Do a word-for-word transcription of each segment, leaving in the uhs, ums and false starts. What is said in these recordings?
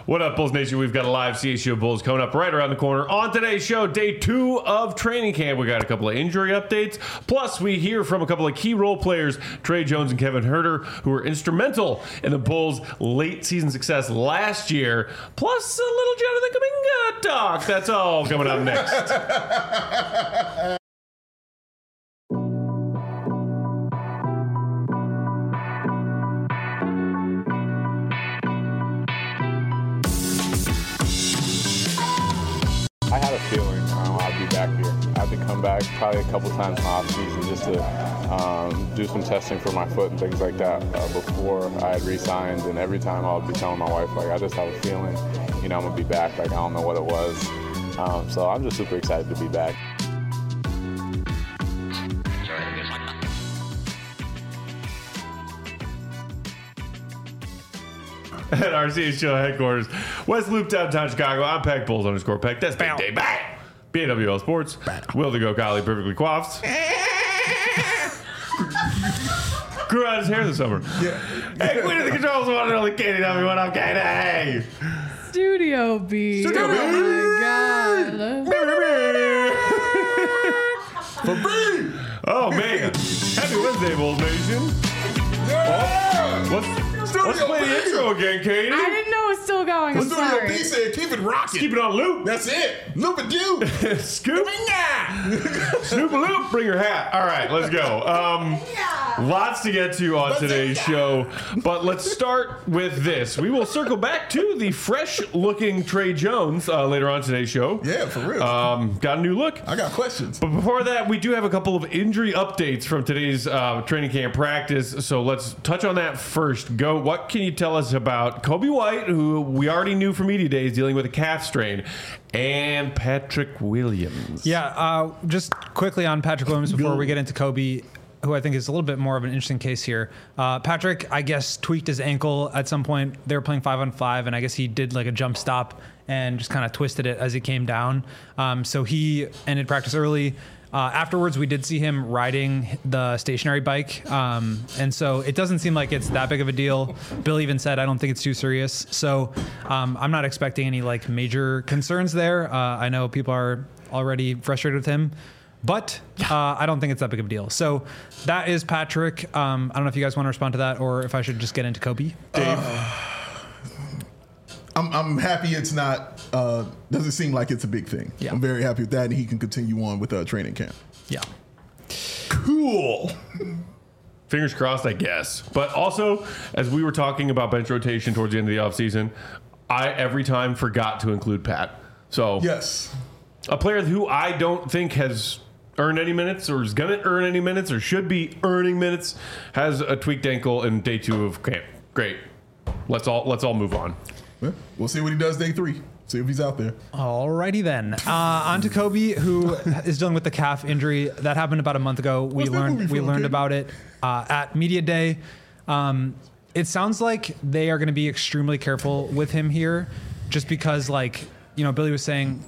What up, Bulls Nation? We've got a live C H G O Bulls coming up right around the corner. On today's show, day two of training camp. We got a couple of injury updates. Plus, we hear from a couple of key role players, Trey Jones and Kevin Huerter, who were instrumental in the Bulls' late season success last year. Plus, a little Jonathan Kuminga talk. That's all coming up next. I had a feeling um, I'd be back here. I had to come back probably a couple times in the offseason just to um, do some testing for my foot and things like that uh, before I had re-signed. And every time I would be telling my wife, like, I just have a feeling, you know, I'm going to be back. Like, I don't know what it was. Um, so I'm just super excited to be back. At our C H G O headquarters, West Loop, downtown Chicago. I'm Peck, Bulls underscore Peck. That's Big Day. Bang! B A W L Sports. Will to go Golly, perfectly coiffed. Grew out his hair this summer. Yeah. Hey, Queen of the Controls, one and only Katie W. What up, Katie? Studio B. Studio B. Oh my God. For B. Oh, man. Happy Wednesday, Bulls Nation. Yeah. Oh, what's... Let's play the intro again, Katie. I didn't know it was still going. I'm Studio sorry. B said, keep it rocking. Keep it on loop. That's it. Loop it, you. Scoop. Snoop a loop. Bring your hat. All right, let's go. Um, lots to get to on today's show, but let's start with this. We will circle back to the fresh-looking Trey Jones uh, later on today's show. Yeah, for real. Um, got a new look. I got questions. But before that, we do have a couple of injury updates from today's uh, training camp practice, so let's touch on that first. Go. What can you tell us about Kobe White, who we already knew from media days dealing with a calf strain, and Patrick Williams? Yeah, uh, just quickly on Patrick Williams before we get into Kobe, who I think is a little bit more of an interesting case here. Uh, Patrick, I guess, tweaked his ankle at some point. They were playing five on five, and I guess he did like a jump stop and just kind of twisted it as he came down. Um, so he ended practice early. Uh, afterwards, we did see him riding the stationary bike. Um, and so it doesn't seem like it's that big of a deal. Bill even said, I don't think it's too serious. So um, I'm not expecting any like major concerns there. Uh, I know people are already frustrated with him, but uh, I don't think it's that big of a deal. So that is Patrick. Um, I don't know if you guys want to respond to that or if I should just get into Kobe. Dave? Uh, I'm, I'm happy it's not, uh, doesn't seem like it's a big thing. Yeah. I'm very happy with that, and he can continue on with uh, training camp. Yeah. Cool. Fingers crossed, I guess. But also, as we were talking about bench rotation towards the end of the offseason, I every time forgot to include Pat. So Yes. a player who I don't think has earned any minutes or is going to earn any minutes or should be earning minutes has a tweaked ankle in day two of camp. Great. Let's all let's all move on. Well, we'll see what he does day three. See if he's out there. Alrighty then. Uh, on to Kobe, who is dealing with the calf injury that happened about a month ago. We What's that learned movie we from, learned kid? about it uh, at media day. Um, it sounds like they are going to be extremely careful with him here, just because, like, you know, Billy was saying,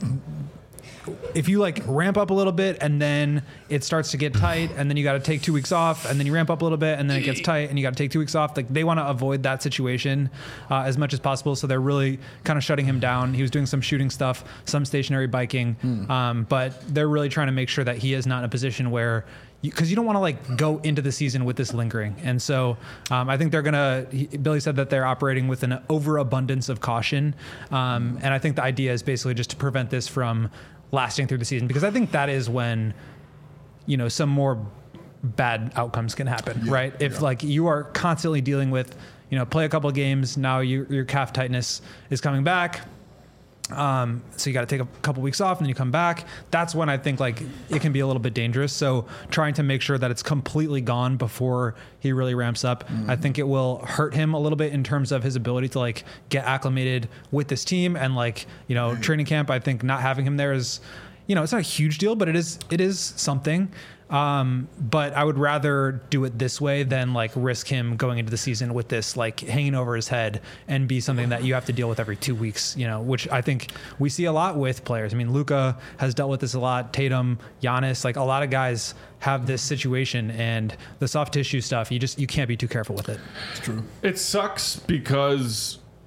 if you like ramp up a little bit and then it starts to get tight and then you got to take two weeks off and then you ramp up a little bit and then it gets tight and you got to take two weeks off. Like, they want to avoid that situation uh, as much as possible. So they're really kind of shutting him down. He was doing some shooting stuff, some stationary biking, Hmm. um, but they're really trying to make sure that he is not in a position where, because you, you don't want to like go into the season with this lingering. And so um, I think they're going to, Billy said that they're operating with an overabundance of caution. Um, and I think the idea is basically just to prevent this from lasting through the season, because I think that is when, you know, some more bad outcomes can happen, Yeah, right? If yeah. like you are constantly dealing with, you know, play a couple of games, now you, your calf tightness is coming back. Um, so you got to take a couple weeks off and then you come back. That's when I think like it can be a little bit dangerous. So trying to make sure that it's completely gone before he really ramps up, mm-hmm. I think it will hurt him a little bit in terms of his ability to like get acclimated with this team and like, you know, training camp. I think not having him there is, you know, it's not a huge deal, but it is, it is something. Um, but I would rather do it this way than like risk him going into the season with this like hanging over his head and be something that you have to deal with every two weeks, you know, which I think we see a lot with players. I mean, Luka has dealt with this a lot, Tatum, Giannis, like a lot of guys have this situation, and the soft tissue stuff, you just, you can't be too careful with it. It's true. It sucks because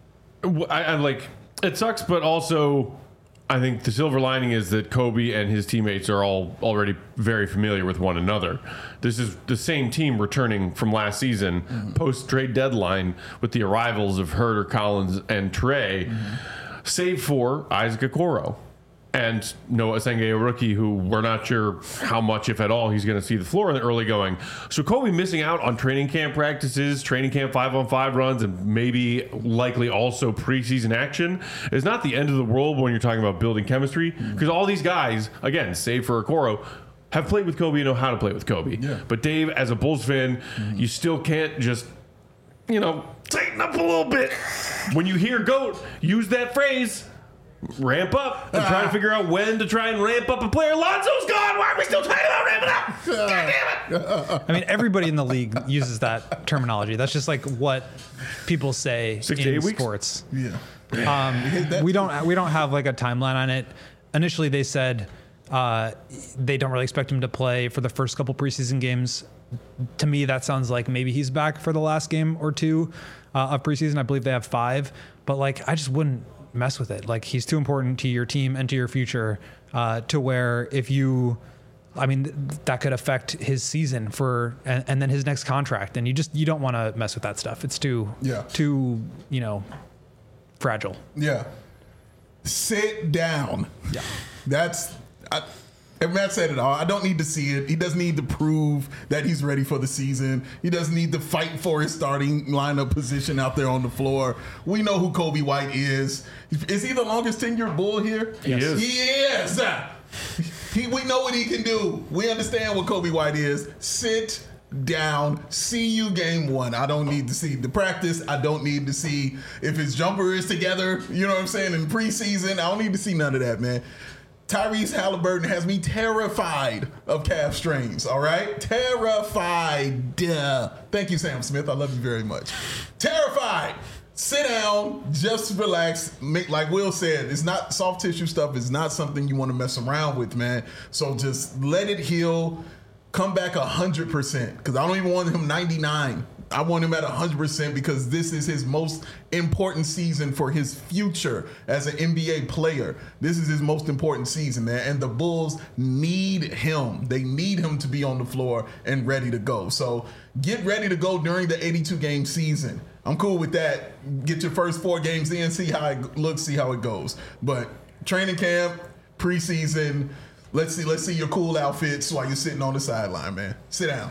I, I like it sucks, but also I think the silver lining is that Kobe and his teammates are all already very familiar with one another. This is the same team returning from last season, mm-hmm. post trade deadline, with the arrivals of Herter, Collins, and Trey, mm-hmm. save for Isaac Okoro. And Noah Senge, a rookie who we're not sure how much, if at all, he's going to see the floor in the early going. So Kobe missing out on training camp practices, training camp five-on-five runs, and maybe likely also preseason action is not the end of the world when you're talking about building chemistry. Because mm-hmm. all these guys, again, save for Okoro, have played with Kobe and know how to play with Kobe. Yeah. But Dave, as a Bulls fan, mm-hmm. you still can't just, you know, tighten up a little bit. When you hear GOAT, use that phrase. Ramp up and try to figure out when to try and ramp up a player. Lonzo's gone. Why are we still talking about ramping up? God damn it. I mean, everybody in the league uses that terminology. That's just like what people say Six in to eight weeks? sports. Yeah. Um, we don't we don't have like a timeline on it. Initially, they said uh, they don't really expect him to play for the first couple preseason games. To me, that sounds like maybe he's back for the last game or two uh, of preseason. I believe they have five, but like I just wouldn't mess with it. Like he's too important to your team and to your future uh, to where if you, I mean, th- that could affect his season for, and, and then his next contract. And you just, you don't want to mess with that stuff. It's too, yeah. too, you know, fragile. Yeah. Sit down. Yeah. That's, I, and Matt said it all. I don't need to see it. He doesn't need to prove that he's ready for the season. He doesn't need to fight for his starting lineup position out there on the floor. We know who Kobe White is. Is he the longest tenured Bull here? He yes. is. He is. He, we know what he can do. We understand what Kobe White is. Sit down. See you game one. I don't need to see the practice. I don't need to see if his jumper is together. You know what I'm saying? In preseason, I don't need to see none of that, man. Tyrese Halliburton has me terrified of calf strains, all right? Terrified. Duh. Thank you, Sam Smith. I love you very much. Terrified. Sit down. Just relax. Make, like Will said, it's not soft tissue stuff. It's not something you want to mess around with, man. So just let it heal. Come back one hundred percent because I don't even want him ninety-nine. I want him at one hundred percent because this is his most important season for his future as an N B A player. This is his most important season, man. And the Bulls need him. They need him to be on the floor and ready to go. So get ready to go during the eighty-two game season. I'm cool with that. Get your first four games in, see how it looks, see how it goes. But training camp, preseason, let's see, let's see your cool outfits while you're sitting on the sideline, man. Sit down.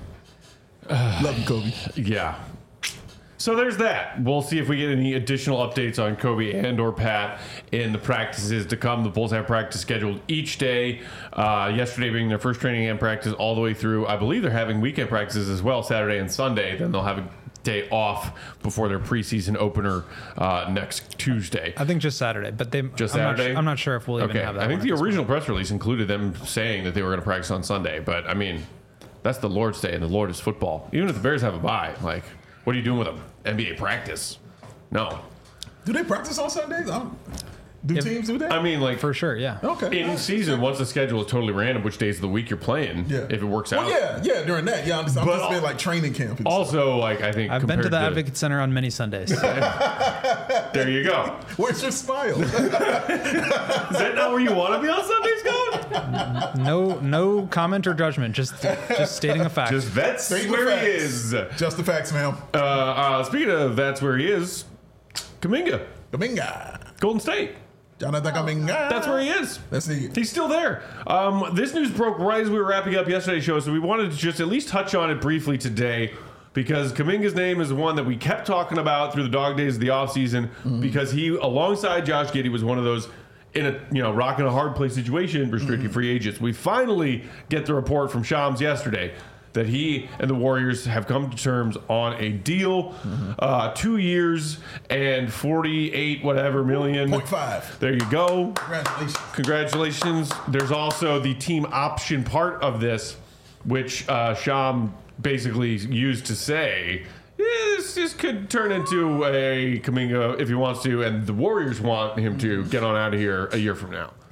Uh, Love you, Kobe. Yeah. So there's that. We'll see if we get any additional updates on Kobe and or Pat in the practices to come. The Bulls have practice scheduled each day. Uh, yesterday being their first training camp practice all the way through. I believe they're having weekend practices as well, Saturday and Sunday. Then they'll have a day off before their preseason opener uh, next Tuesday. I think just Saturday, but they just I'm Saturday. Not, I'm not sure if we'll even okay. have that. I think one the at original point. press release included them saying that they were going to practice on Sunday, but I mean, that's the Lord's Day, and the Lord is football. Even if the Bears have a bye, like, what are you doing with them? N B A practice? No. Do they practice on Sundays? I don't, do If- teams do that? I mean, like, For sure, yeah. okay. in season, once the schedule is totally random, which days of the week you're playing, Yeah. if it works Well, out. yeah, yeah, during that. Yeah, I'm just, I'm But just al- saying like training camp. And Also, like, I think I've been compared to the Advocate Center on many Sundays. There you go. stuff. Where's your smile? Is that not where you want to be on Sundays, Coach? no, no comment or judgment. Just, just stating a fact. Just that's State the where he facts. is. Uh, Just the facts, ma'am. uh, speaking of that's where he is, Kuminga, Kaminga. Golden State. Jonathan Kaminga. That's where he is. Let's see. He's still there. Um, this news broke right as we were wrapping up yesterday's show, so we wanted to just at least touch on it briefly today because Kuminga's name is one that we kept talking about through the dog days of the offseason mm-hmm. because he, alongside Josh Giddey, was one of those in a you know rock and a hard place situation, restricted mm-hmm. free agents. We finally get the report from Shams yesterday that he and the Warriors have come to terms on a deal, mm-hmm. uh, two years and forty-eight whatever million. Point five. There you go. Congratulations. Congratulations. There's also the team option part of this, which uh, Sham basically used to say, yeah, this, this could turn into a Kuminga if he wants to, and the Warriors want him to get on out of here a year from now.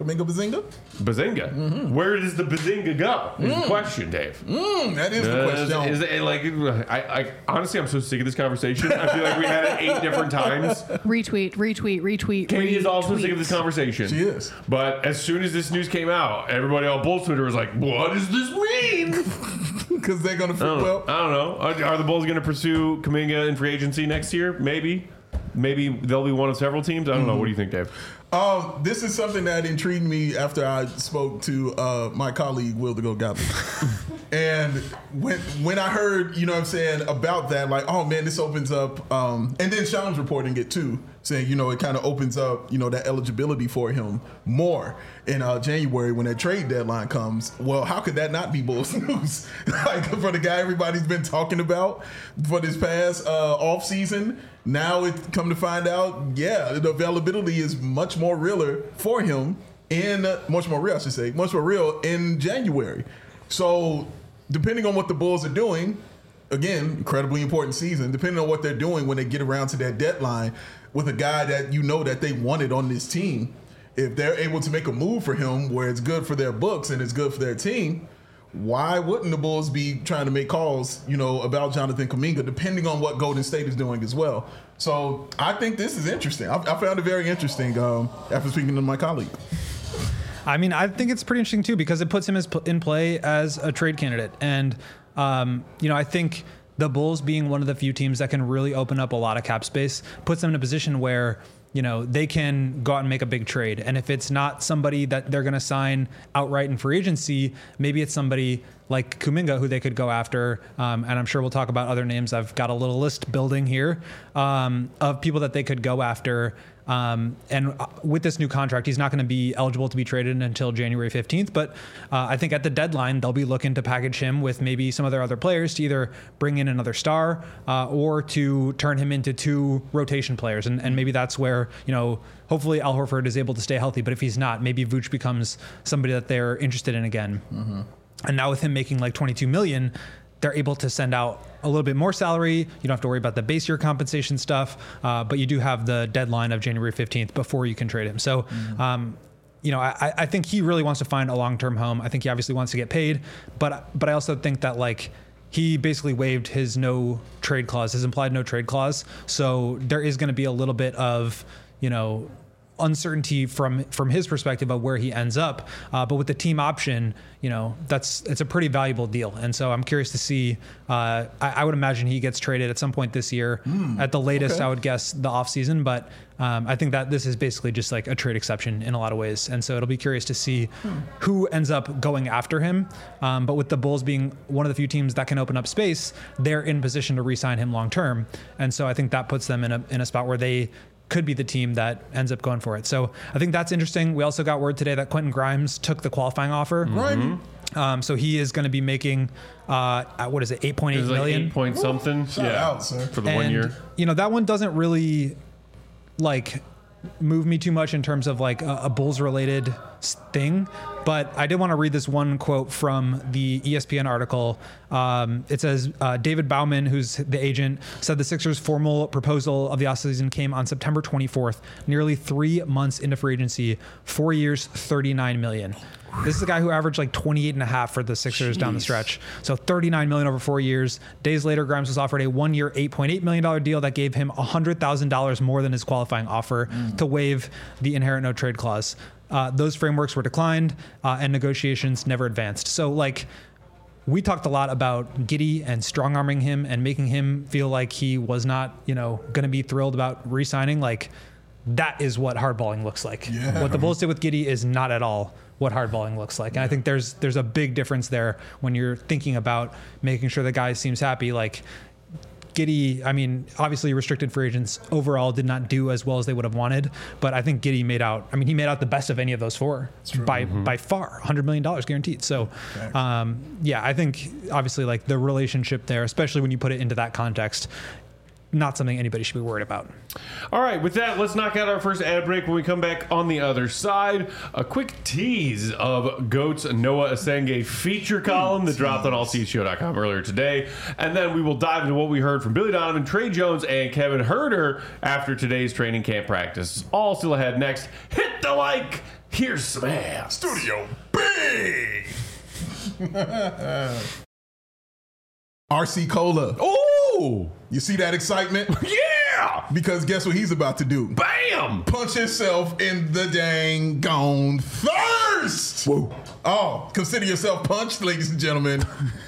Kuminga Bazinga? Bazinga. Mm-hmm. Where does the Bazinga go? Is the question, Dave. Mm, that is the Uh, question. Is, is it like I, I honestly I'm so sick of this conversation. I feel like we had it eight different times. Retweet, retweet, retweet. Katie is also retweet. sick of this conversation. She is. But as soon as this news came out, everybody on Bulls Twitter was like, "What does this mean?" Because they're going to I don't, well. I don't know. Are, are the Bulls going to pursue Kuminga in free agency next year? Maybe. Maybe they'll be one of several teams. I don't know. What do you think, Dave? Um, this is something that intrigued me after I spoke to uh, my colleague Will the Go Goblin. And when when I heard, you know what I'm saying, about that, like, oh man, this opens up, um, and then Sean's reporting it too, saying, you know, it kind of opens up, you know, that eligibility for him more in uh, January when that trade deadline comes. Well, how could that not be Bulls news? Like, for the guy everybody's been talking about for this past uh, off season. Now it come to find out, yeah, the availability is much more realer for him in uh, much more real, I should say, much more real in January. So depending on what the Bulls are doing, again, incredibly important season. Depending on what they're doing when they get around to that deadline with a guy that you know that they wanted on this team, if they're able to make a move for him where it's good for their books and it's good for their team, why wouldn't the Bulls be trying to make calls, you know, about Jonathan Kuminga, depending on what Golden State is doing as well? So I think this is interesting. I, I found it very interesting um, after speaking to my colleague. I mean, I think it's pretty interesting too because it puts him as pl- in play as a trade candidate, and um, you know, I think the Bulls being one of the few teams that can really open up a lot of cap space puts them in a position where, you know, they can go out and make a big trade. And if it's not somebody that they're going to sign outright in free agency, maybe it's somebody like Kuminga who they could go after. Um, and I'm sure we'll talk about other names. I've got a little list building here um, of people that they could go after. Um, and with this new contract, he's not going to be eligible to be traded until January fifteenth. But uh, I think at the deadline, they'll be looking to package him with maybe some of their other players to either bring in another star uh, or to turn him into two rotation players. And, and maybe that's where, you know, hopefully Al Horford is able to stay healthy. But if he's not, maybe Vooch becomes somebody that they're interested in again. Mm-hmm. And now with him making like twenty-two million dollars, they're able to send out a little bit more salary. You don't have to worry about the base year compensation stuff, uh, but you do have the deadline of January fifteenth before you can trade him. So, mm-hmm. um, you know, I, I think he really wants to find a long-term home. I think he obviously wants to get paid, but but I also think that like he basically waived his no trade clause, his implied no trade clause. So there is going to be a little bit of, you know, uncertainty from from his perspective of where he ends up, uh, but with the team option, you know, that's it's a pretty valuable deal, and so I'm curious to see. Uh, I, I would imagine he gets traded at some point this year, mm, at the latest. Okay. I would guess the off season, but um, I think that this is basically just like a trade exception in a lot of ways, and so it'll be curious to see hmm. who ends up going after him. Um, but with the Bulls being one of the few teams that can open up space, they're in position to re-sign him long term, and so I think that puts them in a in a spot where they could be the team that ends up going for it. So I think that's interesting. We also got word today that Quentin Grimes took the qualifying offer. Mm-hmm. Um, so he is going to be making, uh, what is it, eight point eight million? Like eight point something. Shout yeah. out, sir. For the and, one year. You know, that one doesn't really like move me too much in terms of like a, a Bulls related thing, but I did want to read this one quote from the E S P N article. Um, it says, uh, David Bauman, who's the agent, said the Sixers' formal proposal of the offseason came on September twenty-fourth, nearly three months into free agency, four years, thirty-nine million. This is a guy who averaged like twenty-eight and a half for the Sixers Jeez. Down the stretch. So thirty-nine million over four years. Days later, Grimes was offered a one year, eight point eight million dollars deal that gave him one hundred thousand dollars more than his qualifying offer mm. to waive the inherent no trade clause. Uh, those frameworks were declined uh, and negotiations never advanced. So like, we talked a lot about Giddey and strong arming him and making him feel like he was not, you know, going to be thrilled about re-signing. Like, that is what hardballing looks like. Yeah. What the Bulls did with Giddey is not at all what hardballing looks like. And I think there's there's a big difference there when you're thinking about making sure the guy seems happy. Like Giddey, I mean, obviously restricted free agents overall did not do as well as they would have wanted, but I think Giddey made out, I mean, he made out the best of any of those four by mm-hmm. by far, one hundred million dollars guaranteed. So, um, yeah, I think obviously like the relationship there, especially when you put it into that context, not something anybody should be worried about. All right, with that, let's knock out our first ad break. When we come back on the other side, a quick tease of GOAT's Noah Asenge feature column that dropped on all c s show dot com earlier today. And then we will dive into what we heard from Billy Donovan, Trey Jones, and Kevin Huerter after today's training camp practice. All still ahead next. Hit the like Here's some ass. Studio B. R C Cola. Oh, You see that excitement? yeah. Because guess what he's about to do? Bam. Punch himself in the dang gone thirst. Whoa. Oh, consider yourself punched, ladies and gentlemen.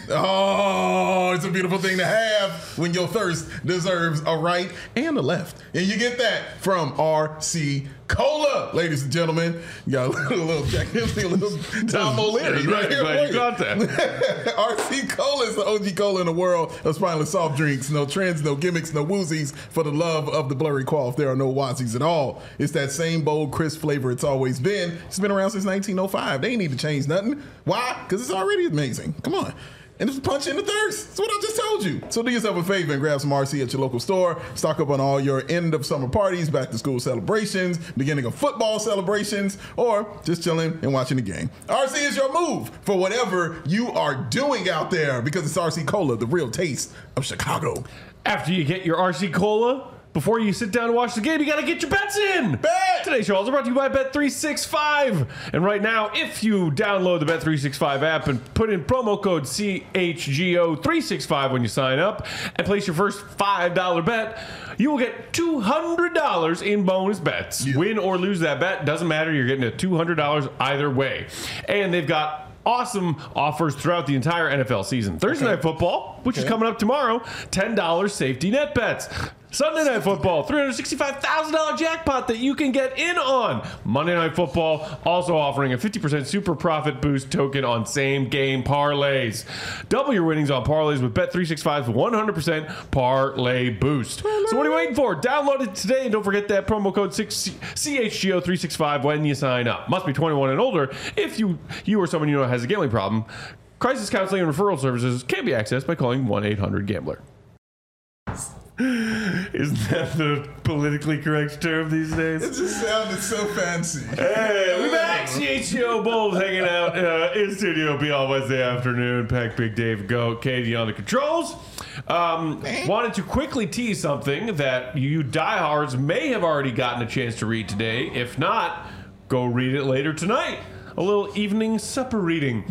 Oh, it's a beautiful thing to have when your thirst deserves a right and a left. And you get that from R C Cola, ladies and gentlemen. You got a little, little Jack Dempsey, a little Tom O'Leary right here Glad for you you. got that. R C Cola is the O G cola in the world of spineless soft drinks. No trends, no gimmicks, no woozies. For the love of the blurry quaff, there are no wazies at all. It's that same bold, crisp flavor it's always been. It's been around since nineteen oh five. They ain't need to change nothing. Why? Because it's already amazing. Come on. And it's punch in the thirst. That's what I just told you. So do yourself a favor and grab some R C at your local store. Stock up on all your end of summer parties, back to school celebrations, beginning of football celebrations, or just chilling and watching the game. R C is your move for whatever you are doing out there, because it's R C Cola, the real taste of Chicago. After you get your R C Cola, before you sit down to watch the game, you got to get your bets in. Bet! Today's show is brought to you by Bet three sixty-five. And right now, if you download the Bet three sixty-five app and put in promo code C H G O three sixty-five when you sign up and place your first five dollar bet, you will get two hundred dollars in bonus bets. Yeah. Win or lose that bet, doesn't matter. You're getting a two hundred dollars either way. And they've got awesome offers throughout the entire N F L season. Thursday Okay. Night Football, which is Okay. coming up tomorrow, ten dollars safety net bets. Sunday Night Football, three hundred sixty-five thousand dollars jackpot that you can get in on. Monday Night Football also offering a fifty percent super profit boost token on same game parlays. Double your winnings on parlays with Bet three sixty-five's one hundred percent parlay boost. So what are you waiting for? Download it today and don't forget that promo code C H G O three sixty-five when you sign up. Must be twenty-one and older. If you you or someone you know has a gambling problem, crisis counseling and referral services can be accessed by calling one eight hundred gambler. Isn't that the politically correct term these days? It just sounded so fancy. Hey, we back. C H G O Bulls hanging out uh, in Studio B all Wednesday afternoon. Pack Big Dave Goat, Katie on the controls. Um, wanted to quickly tease something that you diehards may have already gotten a chance to read today. If not, go read it later tonight. A little evening supper reading.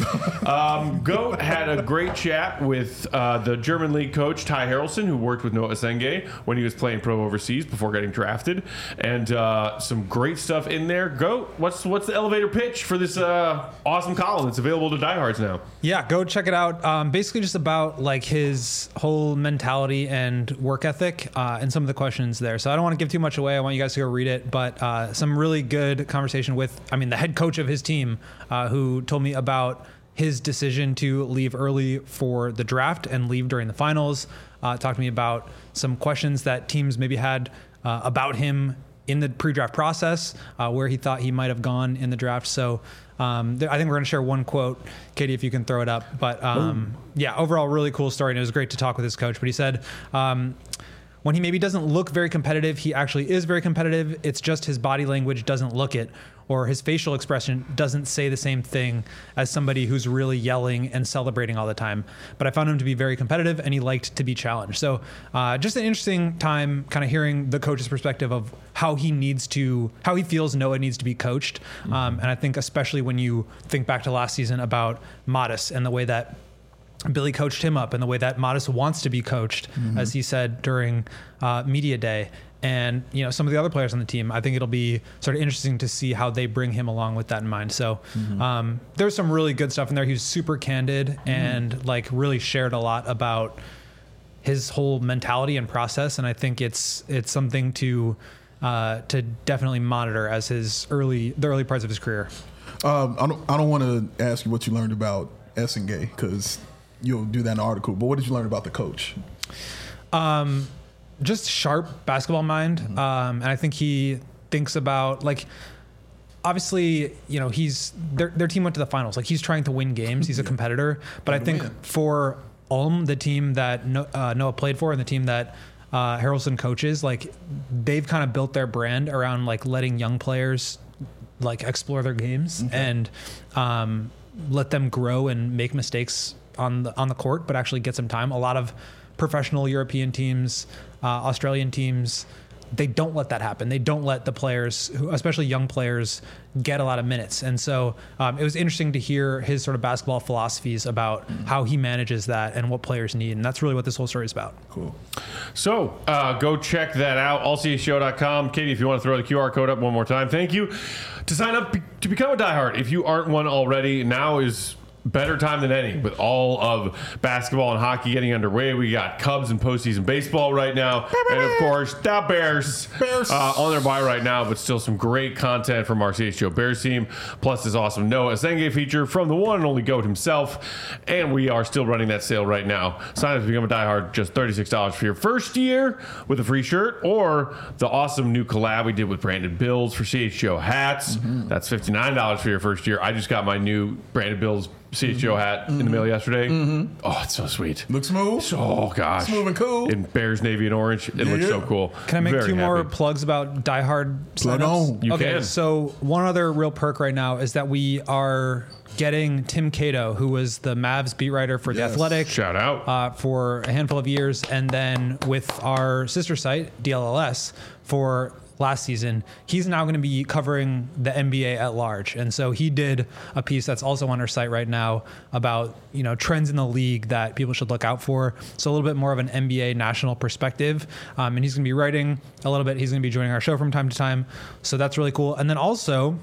Um, Goat had a great chat with uh, the German league coach Ty Harrelson, who worked with Noah Senge when he was playing pro overseas before getting drafted, and uh, some great stuff in there. Goat, what's what's the elevator pitch for this uh, awesome column that's available to diehards now? Yeah, go check it out. Um, basically, just about like his whole mentality and work ethic, uh, and some of the questions there. So I don't want to give too much away. I want you guys to go read it. But uh, some really good conversation with, I mean, the head coach of his team, uh, who told me about his decision to leave early for the draft and leave during the finals. Uh, talked to me about some questions that teams maybe had uh, about him in the pre-draft process, uh, where he thought he might have gone in the draft. So um, there, I think we're going to share one quote, Katie, if you can throw it up. But um, yeah, overall, really cool story. And it was great to talk with his coach. But he said, um, when he maybe doesn't look very competitive, he actually is very competitive. It's just his body language doesn't look it, or his facial expression doesn't say the same thing as somebody who's really yelling and celebrating all the time. But I found him to be very competitive, and he liked to be challenged. So uh, just an interesting time kind of hearing the coach's perspective of how he needs to, how he feels Noah needs to be coached. Mm-hmm. Um, and I think especially when you think back to last season about Modest and the way that Billy coached him up and the way that Modest wants to be coached, mm-hmm. as he said during uh, media day. And, you know, some of the other players on the team, I think it'll be sort of interesting to see how they bring him along with that in mind. So mm-hmm. um, there's some really good stuff in there. He was super candid mm-hmm. and like really shared a lot about his whole mentality and process. And I think it's, it's something to, uh, to definitely monitor as his early, the early parts of his career. Um, I don't, I don't want to ask you what you learned about Essengay, because you'll do that in the article, but what did you learn about the coach? Um, just sharp basketball mind. Mm-hmm. Um, and I think he thinks about, like, obviously, you know, he's, their, their team went to the finals. Like, he's trying to win games. He's a competitor. But I think win. for Ulm, the team that no, uh, Noah played for and the team that uh, Harrelson coaches, like, they've kind of built their brand around, like, letting young players, like, explore their games okay. and um, let them grow and make mistakes on the on the court, but actually get some time. A lot of professional European teams, uh, Australian teams, they don't let that happen. They don't let the players, who, especially young players, get a lot of minutes. And so um, it was interesting to hear his sort of basketball philosophies about how he manages that and what players need. And that's really what this whole story is about. Cool. So uh, go check that out, all c s show dot com. Katie, if you want to throw the Q R code up one more time, thank you. To sign up to become a diehard, if you aren't one already, now is better time than any with all of basketball and hockey getting underway. We got Cubs and postseason baseball right now. And of course, the Bears, Bears. Uh, on their bye right now, but still some great content from our C H G O Bears team. Plus this awesome Noah Asenge feature from the one and only GOAT himself. And we are still running that sale right now. Sign up to become a diehard, just thirty-six dollars for your first year with a free shirt, or the awesome new collab we did with Brandon Bills for C H G O hats. Mm-hmm. That's fifty-nine dollars for your first year. I just got my new Brandon Bills C H G O hat mm-hmm. in the mail yesterday. Mm-hmm. Oh, it's so sweet. Looks smooth. So, oh gosh, smooth and cool. In Bears, navy, and orange, it yeah. looks so cool. Can I make Very two happy. more plugs about Die Hard Plug signups? on. You okay, can. so one other real perk right now is that we are getting Tim Cato, who was the Mavs beat writer for The Yes. Athletic. Shout out. Uh, for a handful of years, and then with our sister site, D L L S, for last season. He's now going to be covering the N B A at large. And so he did a piece that's also on our site right now about, you know, trends in the league that people should look out for. So a little bit more of an N B A national perspective. Um, and he's going to be writing a little bit. He's going to be joining our show from time to time. So that's really cool. And then also,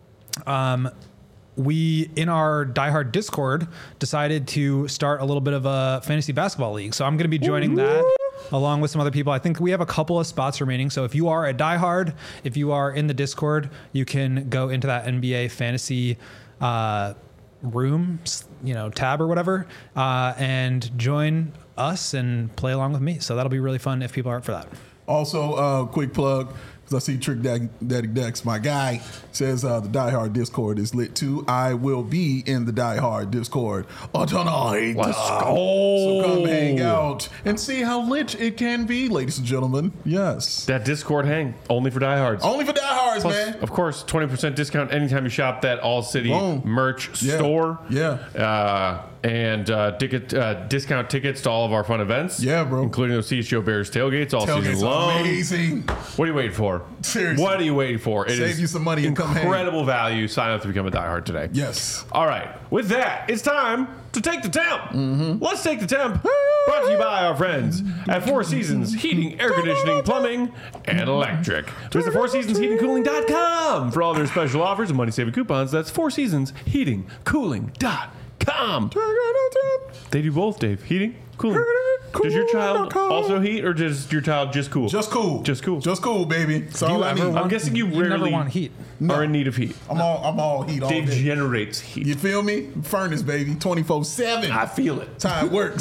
um, we, in our Die Hard Discord, decided to start a little bit of a fantasy basketball league. So I'm going to be joining that along with some other people. I think we have a couple of spots remaining. So if you are a Die Hard, if you are in the Discord, you can go into that N B A fantasy uh, room, you know, tab or whatever, uh, and join us and play along with me. So that'll be really fun if people aren't for that. Also, uh, quick plug. I see Trick Daddy, Daddy Dex, my guy, says uh, the Die Hard Discord is lit too. I will be in the Die Hard Discord tonight. Let's go. So come hang out and see how lit it can be, ladies and gentlemen. Yes. That Discord hang only for diehards. Only for diehards, Plus, man. of course, twenty percent discount anytime you shop that All City Boom. merch Yeah. store. Yeah. Uh, and uh, ticket uh, discount tickets to all of our fun events. Yeah, bro. Including those C H G O Bears tailgates all Tailgate's season long. amazing. What are you waiting for? Seriously. What are you waiting for? It Save is you some money and come hang. incredible value. Sign up to become a diehard today. Yes. All right. With that, it's time to take the temp. Mm-hmm. Let's take the temp. Brought to you by our friends at Four Seasons Heating, Air Conditioning, Plumbing, and Electric. Visit four seasons heating cooling dot com for all their special offers and money-saving coupons. That's four seasons heating cooling dot com. They do both, Dave. Heating, cooling. Does your child also heat, or does your child just cool? Just cool. Just cool. Just cool, baby. That's Do you all I ever need. want- I'm guessing you You never rarely want heat. are in need of heat. I'm all I'm all heat all Dave day. generates heat. You feel me? Furnace, baby. twenty-four seven. I feel it. That's how it works.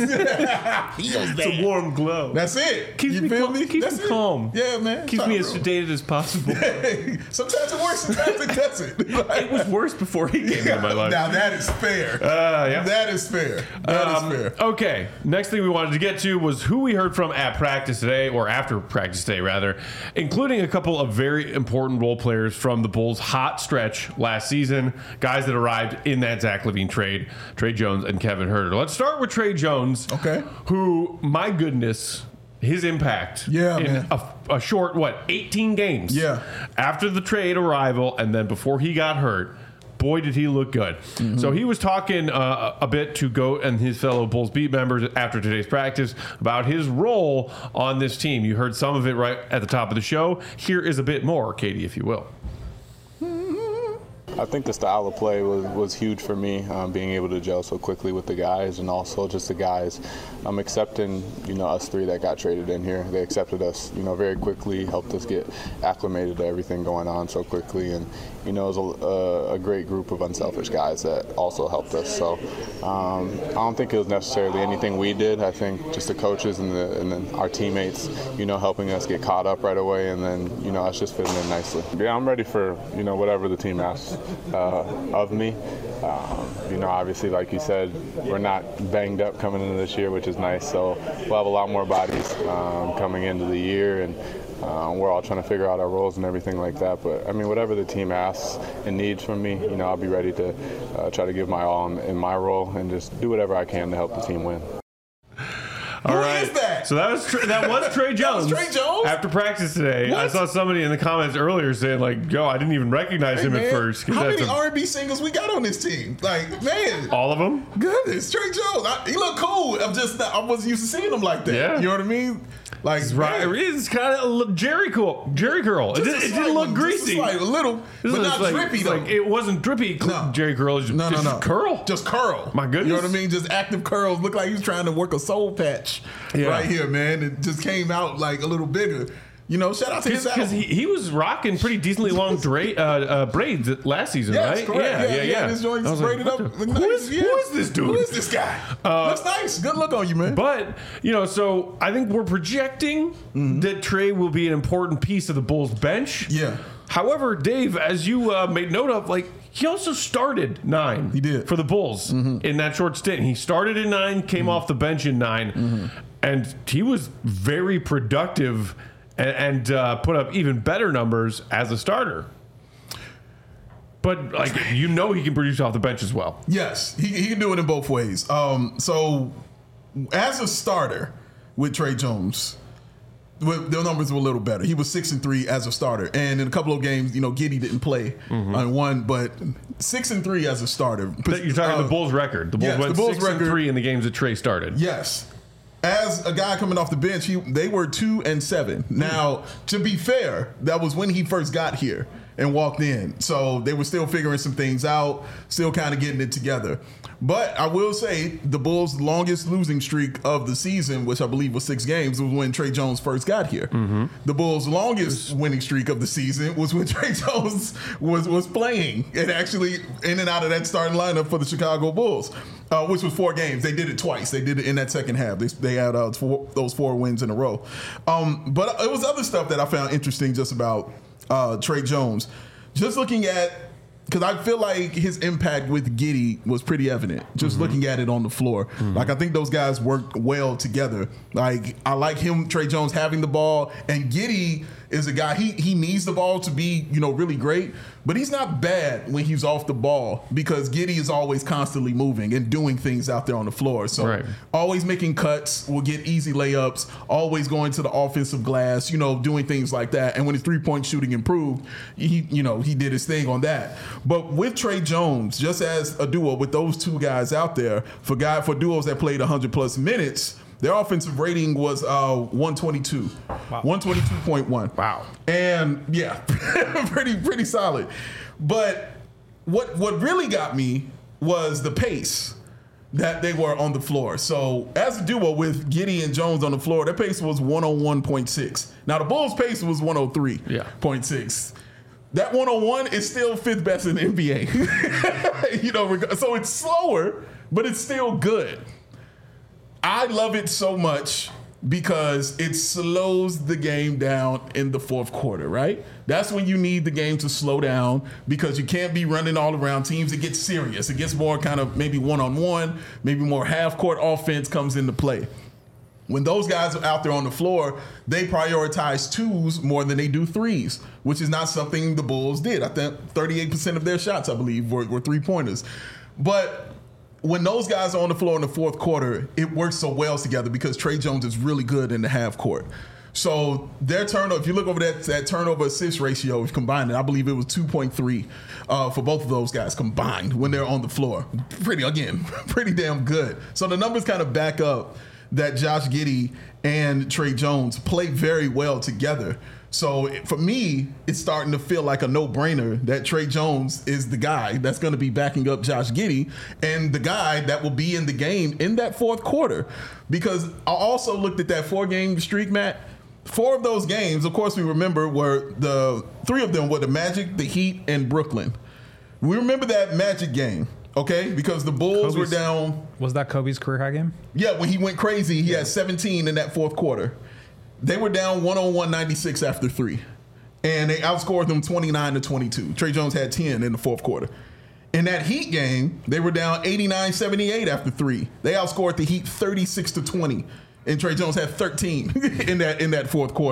It's a warm glow. That's it. Keeps you me feel cal- me? keeps That's me it. calm. Yeah, man. Keeps That's me how as it sedated as possible. rolls. Sometimes it works, sometimes it doesn't. It was worse before he came into my life. Now that is fair. Uh, yeah. That is fair. That is Um, fair. Okay. Next thing we wanted to get to was who we heard from at practice today, or after practice today, rather, including a couple of very important role players from the Bulls' hot stretch last season, guys that arrived in that Zach LaVine trade, Trey Jones and Kevin Huerter. Let's start with Trey Jones. Okay. Who, my goodness, his impact Yeah, in man. a, a short, what, eighteen games? Yeah. After the trade arrival and then before he got hurt, boy, did he look good. Mm-hmm. So he was talking uh, a bit to GOAT and his fellow Bulls beat members after today's practice about his role on this team. You heard some of it right at the top of the show. Here is a bit more, Katie, if you will. I think the style of play was, was huge for me, um, being able to gel so quickly with the guys, and also just the guys um, accepting, you know, us three that got traded in here. They accepted us, you know, very quickly, helped us get acclimated to everything going on so quickly, and, you know, it was a, a, a great group of unselfish guys that also helped us. So um, I don't think it was necessarily anything we did. I think just the coaches and, the, and then our teammates, you know, helping us get caught up right away, and then, you know, us just fitting in nicely. Yeah, I'm ready for, you know, whatever the team asks uh, of me. Um, you know, obviously, like you said, we're not banged up coming into this year, which is nice. So we'll have a lot more bodies um, coming into the year, and uh, we're all trying to figure out our roles and everything like that. But I mean, whatever the team asks and needs from me, you know, I'll be ready to uh, try to give my all in, in my role and just do whatever I can to help the team win. All Who right. is that? that? So that was Tra- that was Trey Jones. That was Trey Jones? After practice today, What? I saw somebody in the comments earlier saying like, "Yo, I didn't even recognize Hey, him man, at first." 'cause how that's many a- R and B singers we got on this team? Like, man, all of them? goodness, Trey Jones. I, he looked cool. I'm just not, I wasn't used to seeing him like that. Yeah. You know what I mean? Like, Right, man, it's kind of Jerry curl, Jerry curl. It, just a did, it slight didn't look one, just a greasy. slight, a little, This but is not like, drippy it's though. like, it wasn't drippy. No. Jerry curl is No, no, just no. curl. Just curl. My goodness. You know what I mean? Just active curls. Look like he was trying to work a soul patch Yeah. right here, man. It just came out like a little bigger. You know, shout out to his Because he, he was rocking pretty decently long dra- uh, uh, braids last season, Yeah, right? that's correct. Yeah, yeah, yeah. This joint's I was like, braided what up. the- Look who nice. is- Yeah. who is this dude? Who is this guy? Uh, Looks nice. Good look on you, man. But, you know, so I think we're projecting Mm-hmm. that Trey will be an important piece of the Bulls bench. Yeah. However, Dave, as you uh, made note of, like, he also started nine. He did. For the Bulls in that short stint. He started in nine, came off the bench in nine, and he was very productive and, and uh, put up even better numbers as a starter. But, like, you know he can produce off the bench as well. Yes, he, he can do it in both ways. Um, so, as a starter with Trey Jones, well, their numbers were a little better. He was six and three as a starter, and in a couple of games, you know, Giddey didn't play on one, but six and three as a starter. You're talking Uh, the Bulls record. The Bulls yes, went the Bulls six and record. three in the games that Trey started. Yes. As a guy coming off the bench, he they were two and seven. Now, to be fair, that was when he first got here and walked in. So they were still figuring some things out, still kind of getting it together. But I will say the Bulls' longest losing streak of the season, which I believe was six games, was when Trey Jones first got here. The Bulls' longest winning streak of the season was when Trey Jones was was playing and actually in and out of that starting lineup for the Chicago Bulls, uh, which was four games. They did it twice. They did it in that second half. They, they had uh, four, those four wins in a row. Um, but it was other stuff that I found interesting just about uh, Trey Jones. Just looking at, because I feel like his impact with Giddey was pretty evident, just Mm-hmm. looking at it on the floor. Like, I think those guys worked well together. Like, I like him, Trey Jones, having the ball, and Giddey is a guy, he he needs the ball to be, you know, really great, but he's not bad when he's off the ball because Giddey is always constantly moving and doing things out there on the floor. So Right. always making cuts, will get easy layups, always going to the offensive glass, you know, doing things like that. And when his three-point shooting improved, he, you know, he did his thing on that. But with Trey Jones, just as a duo with those two guys out there, for guy for duos that played one hundred plus minutes, their offensive rating was uh, one twenty-two. Wow. one twenty-two point one. Wow. And yeah, pretty pretty solid. But what what really got me was the pace that they were on the floor. So as a duo with Giddey and Jones on the floor, their pace was one oh one point six. Now the Bulls' pace was one oh three point six. Yeah. That one oh one is still fifth best in the N B A. You know, reg- so it's slower, but it's still good. I love it so much because it slows the game down in the fourth quarter, right? That's when you need the game to slow down because you can't be running all around teams. It gets serious. It gets more kind of maybe one-on-one, maybe more half-court offense comes into play. When those guys are out there on the floor, they prioritize twos more than they do threes, which is not something the Bulls did. I think thirty-eight percent of their shots, I believe, were, were three-pointers. But when those guys are on the floor in the fourth quarter, it works so well together because Trey Jones is really good in the half court. So their turnover, if you look over that, that turnover assist ratio, if you combine it, I believe it was two point three uh, for both of those guys combined when they're on the floor. Pretty, again, pretty damn good. So the numbers kind of back up that Josh Giddey and Trey Jones play very well together. So for me, it's starting to feel like a no-brainer that Trey Jones is the guy that's going to be backing up Josh Giddey and the guy that will be in the game in that fourth quarter. Because I also looked at that four-game streak, Matt. Four of those games, of course, we remember were the three of them were the Magic, the Heat, and Brooklyn. We remember that Magic game, okay? Because the Bulls Kobe's, were down. Was that Kobe's career high game? Yeah, when he went crazy, he had seventeen in that fourth quarter. They were down one oh one ninety-six after three, and they outscored them twenty-nine to twenty-two. Trey Jones had ten in the fourth quarter. In that Heat game, they were down eighty-nine seventy-eight after three. They outscored the Heat thirty-six to twenty, and Trey Jones had thirteen in that in that fourth quarter.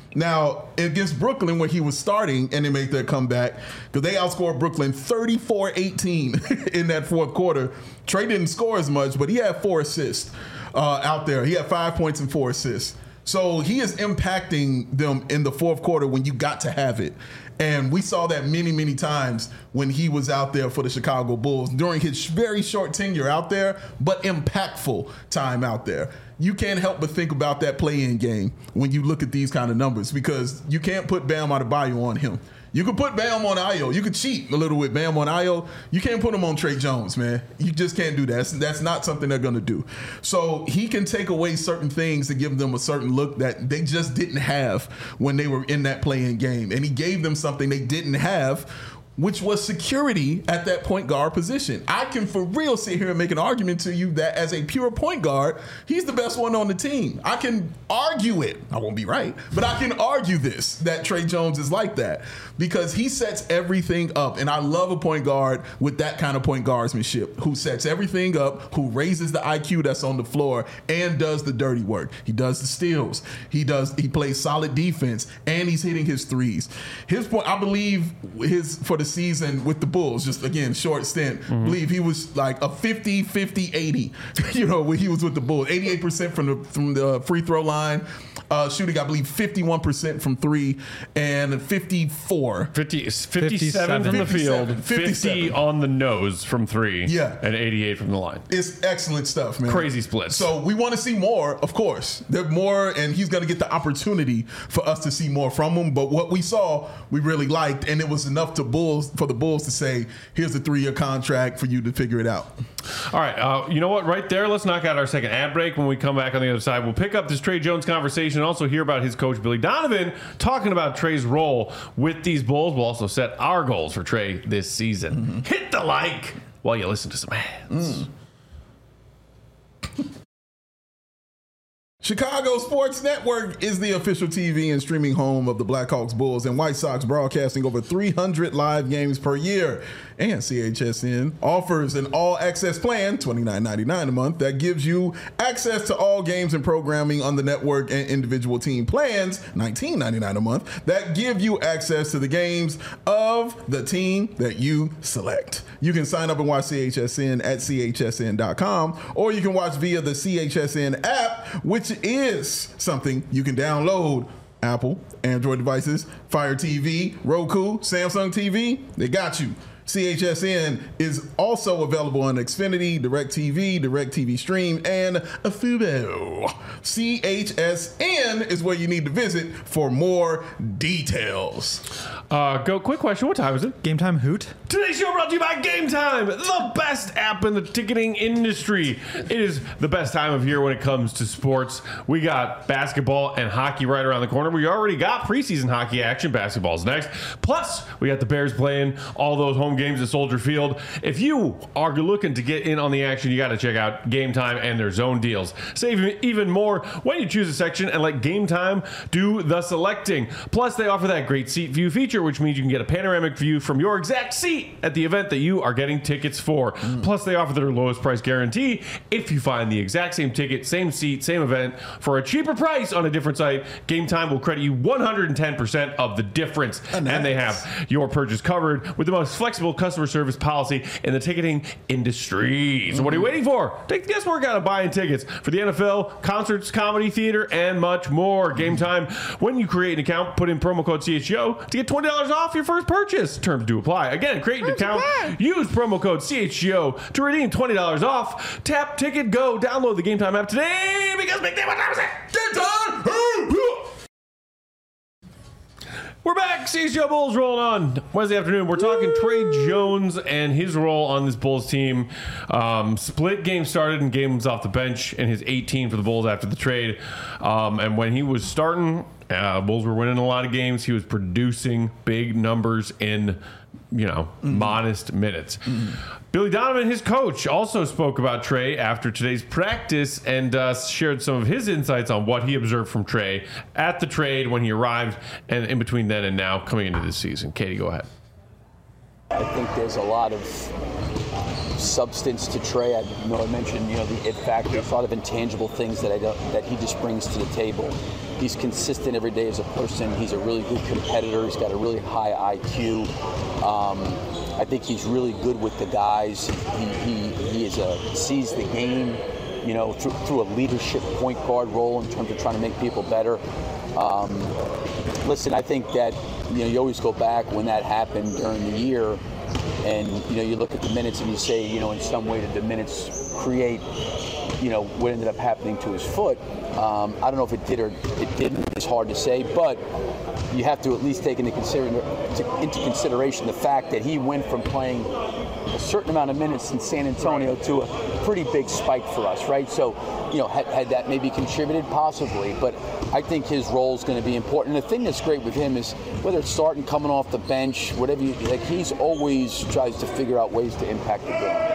Now, against Brooklyn, where he was starting and they made their comeback, because they outscored Brooklyn thirty-four eighteen in that fourth quarter. Trey didn't score as much, but he had four assists uh, out there. He had five points and four assists. So he is impacting them in the fourth quarter when you got to have it. And we saw that many, many times when he was out there for the Chicago Bulls during his very short tenure out there, but impactful time out there. You can't help but think about that play-in game when you look at these kind of numbers, because you can't put Bam Adebayo on him. You could put Bam on Ayo. You could cheat a little with Bam on Ayo. You can't put him on Trey Jones, man. You just can't do that. That's, that's not something they're going to do. So he can take away certain things to give them a certain look that they just didn't have when they were in that play-in game. And he gave them something they didn't have, which was security at that point guard position. I can for real sit here and make an argument to you that as a pure point guard, he's the best one on the team. I can argue it. I won't be right, but I can argue this, that Trey Jones is like that, because he sets everything up. And I love a point guard with that kind of point guardsmanship, who sets everything up, who raises the I Q that's on the floor and does the dirty work. He does the steals. He does. He plays solid defense, and he's hitting his threes. His point, I believe, his for the season with the Bulls, just again short stint, mm-hmm. believe he was like a fifty fifty eighty, you know, when he was with the Bulls. eighty-eight percent from the from the free throw line, uh, shooting I believe fifty-one percent from three, and fifty-four fifty, fifty-seven from the field, fifty on the nose from three, yeah, and eighty-eight from the line. It's excellent stuff, man. Crazy splits. So we want to see more, of course. There's more, and he's going to get the opportunity for us to see more from him. But what we saw, we really liked, and it was enough to Bulls for the Bulls to say, here's a three-year contract for you to figure it out. All right. Uh, you know what? Right there, let's knock out our second ad break. When we come back on the other side, we'll pick up this Trey Jones conversation and also hear about his coach, Billy Donovan, talking about Trey's role with these Bulls. We'll also set our goals for Trey this season. Mm-hmm. Hit the like while you listen to some ads. Mm. Chicago Sports Network is the official T V and streaming home of the Blackhawks, Bulls, and White Sox, broadcasting over three hundred live games per year. And C H S N offers an all-access plan, twenty-nine ninety-nine a month, that gives you access to all games and programming on the network, and individual team plans, nineteen ninety-nine a month, that give you access to the games of the team that you select. You can sign up and watch C H S N at C H S N dot com, or you can watch via the C H S N app, which is something you can download. Apple, Android devices, Fire T V, Roku, Samsung T V, they got you. C H S N is also available on Xfinity, DirecTV, DirecTV Stream, and Fubo. C H S N is where you need to visit for more details. Uh, go. Quick question. What time is it? Game Time Hoot. Today's show brought to you by Game Time, the best app in the ticketing industry. It is the best time of year when it comes to sports. We got basketball and hockey right around the corner. We already got preseason hockey action. Basketball's next. Plus, we got the Bears playing all those home games at Soldier Field. If you are looking to get in on the action, you got to check out Game Time and their zone deals. Save even more when you choose a section and let Game Time do the selecting. Plus, they offer that great seat view feature, which means you can get a panoramic view from your exact seat at the event that you are getting tickets for. Mm. Plus, they offer their lowest price guarantee. If you find the exact same ticket, same seat, same event for a cheaper price on a different site, Game Time will credit you one hundred ten percent of the difference. Oh, nice. And they have your purchase covered with the most flexible customer service policy in the ticketing industry. So what are you waiting for? Take the guesswork out of buying tickets for the N F L, concerts, comedy, theater, and much more. Game Time. When you create an account, put in promo code C H G O to get twenty dollars off your first purchase. Terms do apply. Again, create an account, use promo code C H G O to redeem twenty dollars off. Tap Ticket Go. Download the Game Time app today, because Big Day, what time is it? Game Time! We're back. C H G O Bulls rolling on Wednesday afternoon. We're talking Woo! Trey Jones and his role on this Bulls team. Um, split game started and games off the bench in his eighteen for the Bulls after the trade. Um, and when he was starting, uh, Bulls were winning a lot of games. He was producing big numbers in, you know, mm-hmm. modest minutes. Mm-hmm. Billy Donovan, his coach, also spoke about Trey after today's practice and uh, shared some of his insights on what he observed from Trey at the trade when he arrived and in between then and now coming into this season. Katie, go ahead. I think there's a lot of substance to Trey. I you know I mentioned you know the it factor, a lot of intangible things that I don't, that he just brings to the table. He's consistent every day as a person. He's a really good competitor. He's got a really high I Q. Um, I think he's really good with the guys. He he, he is a sees the game, you know, through, through a leadership point guard role in terms of trying to make people better. Um, listen, I think that you know you always go back when that happened during the year, and you know you look at the minutes and you say, you know, in some way did the minutes create, you know, what ended up happening to his foot. Um, I don't know if it did or it didn't. It's hard to say, but you have to at least take into, consider, to, into consideration the fact that he went from playing a certain amount of minutes in San Antonio to a pretty big spike for us, right? So, you know, had, had that maybe contributed? Possibly, but I think his role is going to be important. And the thing that's great with him is whether it's starting, coming off the bench, whatever you, like he's always tries to figure out ways to impact the game.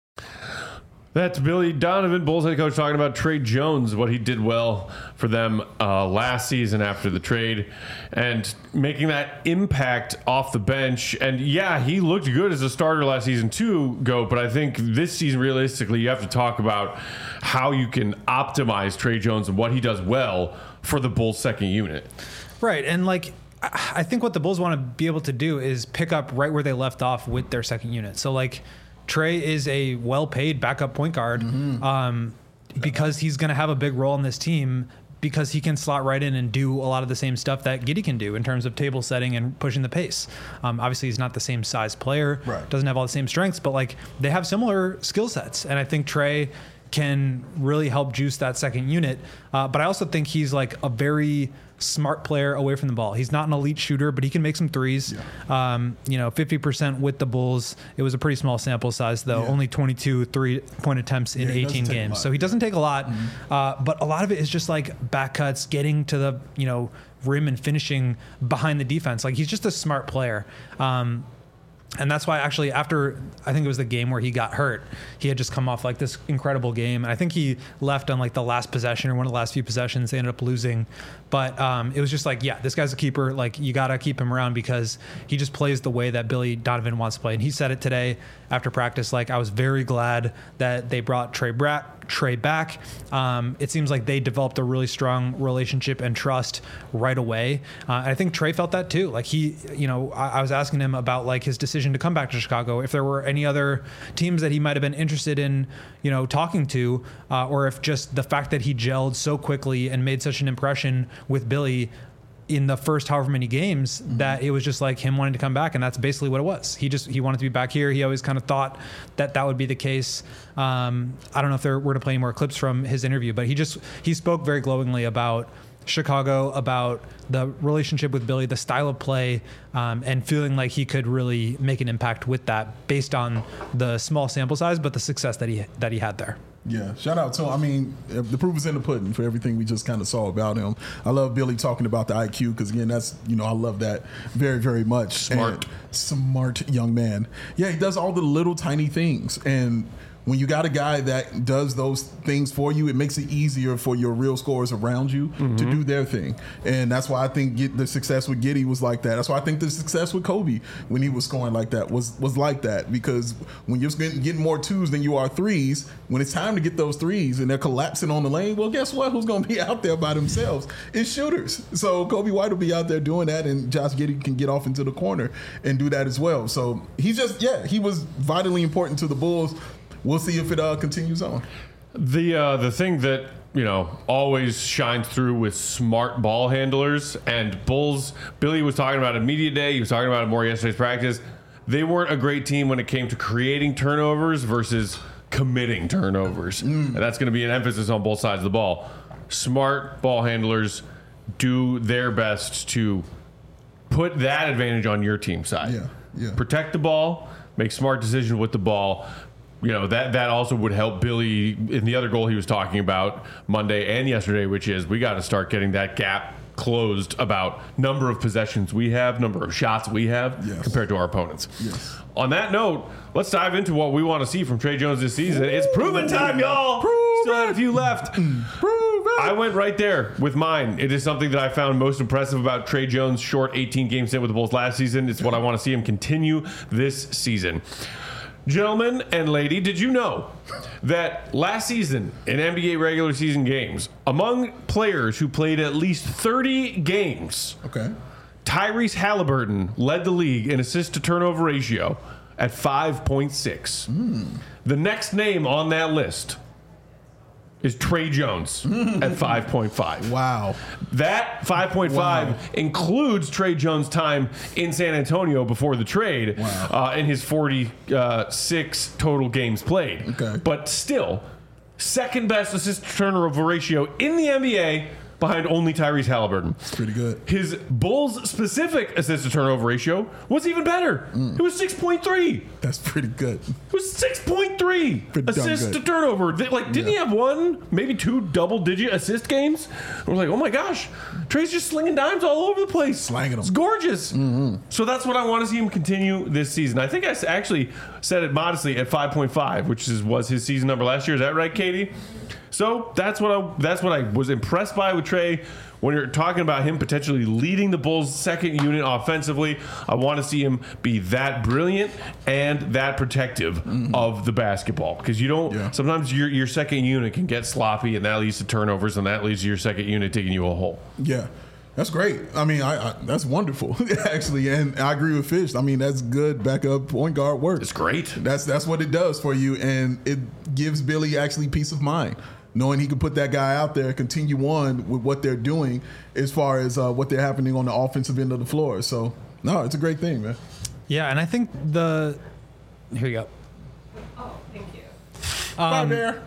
That's Billy Donovan, Bulls head coach, talking about Tre Jones, what he did well for them uh, last season after the trade, and making that impact off the bench. And yeah, he looked good as a starter last season too, Go, but I think this season, realistically, you have to talk about how you can optimize Tre Jones and what he does well for the Bulls' second unit. Right, and like, I think what the Bulls want to be able to do is pick up right where they left off with their second unit. So like, Tre is a well-paid backup point guard mm-hmm. um, because he's going to have a big role in this team because he can slot right in and do a lot of the same stuff that Giddey can do in terms of table setting and pushing the pace. Um, obviously, he's not the same size player, right. doesn't have all the same strengths, but like they have similar skill sets. And I think Tre can really help juice that second unit. Uh, but I also think he's like a very smart player away from the ball. He's not an elite shooter, but he can make some threes. Yeah. Um, you know, fifty percent with the Bulls. It was a pretty small sample size, though. Yeah. Only twenty-two three-point attempts in yeah, eighteen games. So he doesn't take a lot. Mm-hmm. Uh, but a lot of it is just like back cuts, getting to the, you know, rim and finishing behind the defense. Like he's just a smart player. Um, And that's why actually after, I think it was the game where he got hurt, he had just come off like this incredible game. And I think he left on like the last possession or one of the last few possessions. They ended up losing. But um, it was just like, yeah, this guy's a keeper. Like you got to keep him around because he just plays the way that Billy Donovan wants to play. And he said it today after practice, like I was very glad that they brought Tre Bra- Tre back. Um, it seems like they developed a really strong relationship and trust right away. Uh, and I think Tre felt that too. Like he, you know, I, I was asking him about like his decision to come back to Chicago, if there were any other teams that he might have been interested in, you know, talking to, uh, or if just the fact that he gelled so quickly and made such an impression with Billy in the first however many games mm-hmm. that it was just like him wanting to come back. And that's basically what it was. He just, he wanted to be back here. He always kind of thought that that would be the case. Um, I don't know if there were to play any more clips from his interview, but he just, he spoke very glowingly about Chicago, about the relationship with Billy, the style of play, um, and feeling like he could really make an impact with that based on the small sample size, but the success that he, that he had there. Yeah, shout out to him. I mean, the proof is in the pudding for everything we just kind of saw about him. I love Billy talking about the I Q because, again, that's, you know, I love that very, very much. Smart. And smart young man. Yeah, he does all the little tiny things. And when you got a guy that does those things for you, it makes it easier for your real scorers around you mm-hmm. to do their thing. And that's why I think get the success with Giddey was like that. That's why I think the success with Kobe when he was scoring like that was was like that. Because when you're getting more twos than you are threes, when it's time to get those threes and they're collapsing on the lane, well, guess what? Who's going to be out there by themselves? It's shooters. So Kobe White will be out there doing that, and Josh Giddey can get off into the corner and do that as well. So he's just, yeah, he was vitally important to the Bulls. We'll see if it uh, continues on. The uh, the thing that, you know, always shines through with smart ball handlers, and Bulls, Billy was talking about it media day, he was talking about it more yesterday's practice. They weren't a great team when it came to creating turnovers versus committing turnovers. Mm. And that's going to be an emphasis on both sides of the ball. Smart ball handlers do their best to put that advantage on your team side. Yeah, yeah. Protect the ball, make smart decisions with the ball. You know, that that also would help Billy in the other goal he was talking about Monday and yesterday, which is we got to start getting that gap closed about number of possessions we have, number of shots we have yes. compared to our opponents. Yes. On that note, let's dive into what we want to see from Tre Jones this season. It's proven time, y'all. Prove Still had a few left. Prove it. I went right there with mine. It is something that I found most impressive about Tre Jones' short eighteen game stint with the Bulls last season. It's what I want to see him continue this season. Gentlemen and lady, did you know that last season in N B A regular season games, among players who played at least thirty games, Okay. Tyrese Halliburton led the league in assist to turnover ratio at five point six. Mm. The next name on that list is Trey Jones at five point five. Wow. That five point five Wow. includes Trey Jones' time in San Antonio before the trade, Wow. uh, in his forty-six total games played. Okay. But still, second best assist to turnover ratio in the N B A behind only Tyrese Halliburton. It's pretty good. His Bulls specific assist to turnover ratio was even better. Mm. It was six point three. That's pretty good. It was six point three Pretty darn assists good. to turnover. They- Like, didn't he Yeah. have one, maybe two double-digit assist games? We're like, oh my gosh, Trey's just slinging dimes all over the place. Slanging them. It's gorgeous. So that's what I want to see him continue this season. I think I s- actually said it modestly at five point five, which is, was his season number last year. Is that right, Katie? So that's what I that's what I was impressed by with Trey. When you're talking about him potentially leading the Bulls' second unit offensively, I want to see him be that brilliant and that protective Mm-hmm. of the basketball. Because you don't Yeah. sometimes your your second unit can get sloppy, and that leads to turnovers, and that leads to your second unit taking you a hole. Yeah. That's great. I mean, I, I that's wonderful, actually. And I agree with Fish. I mean, that's good backup point guard work. It's great. That's that's what it does for you, and it gives Billy actually peace of mind, knowing he can put that guy out there, continue on with what they're doing as far as uh, what they're happening on the offensive end of the floor. So, no, it's a great thing, man. Yeah, and I think the here you go. Oh, thank you. Bye, Bear.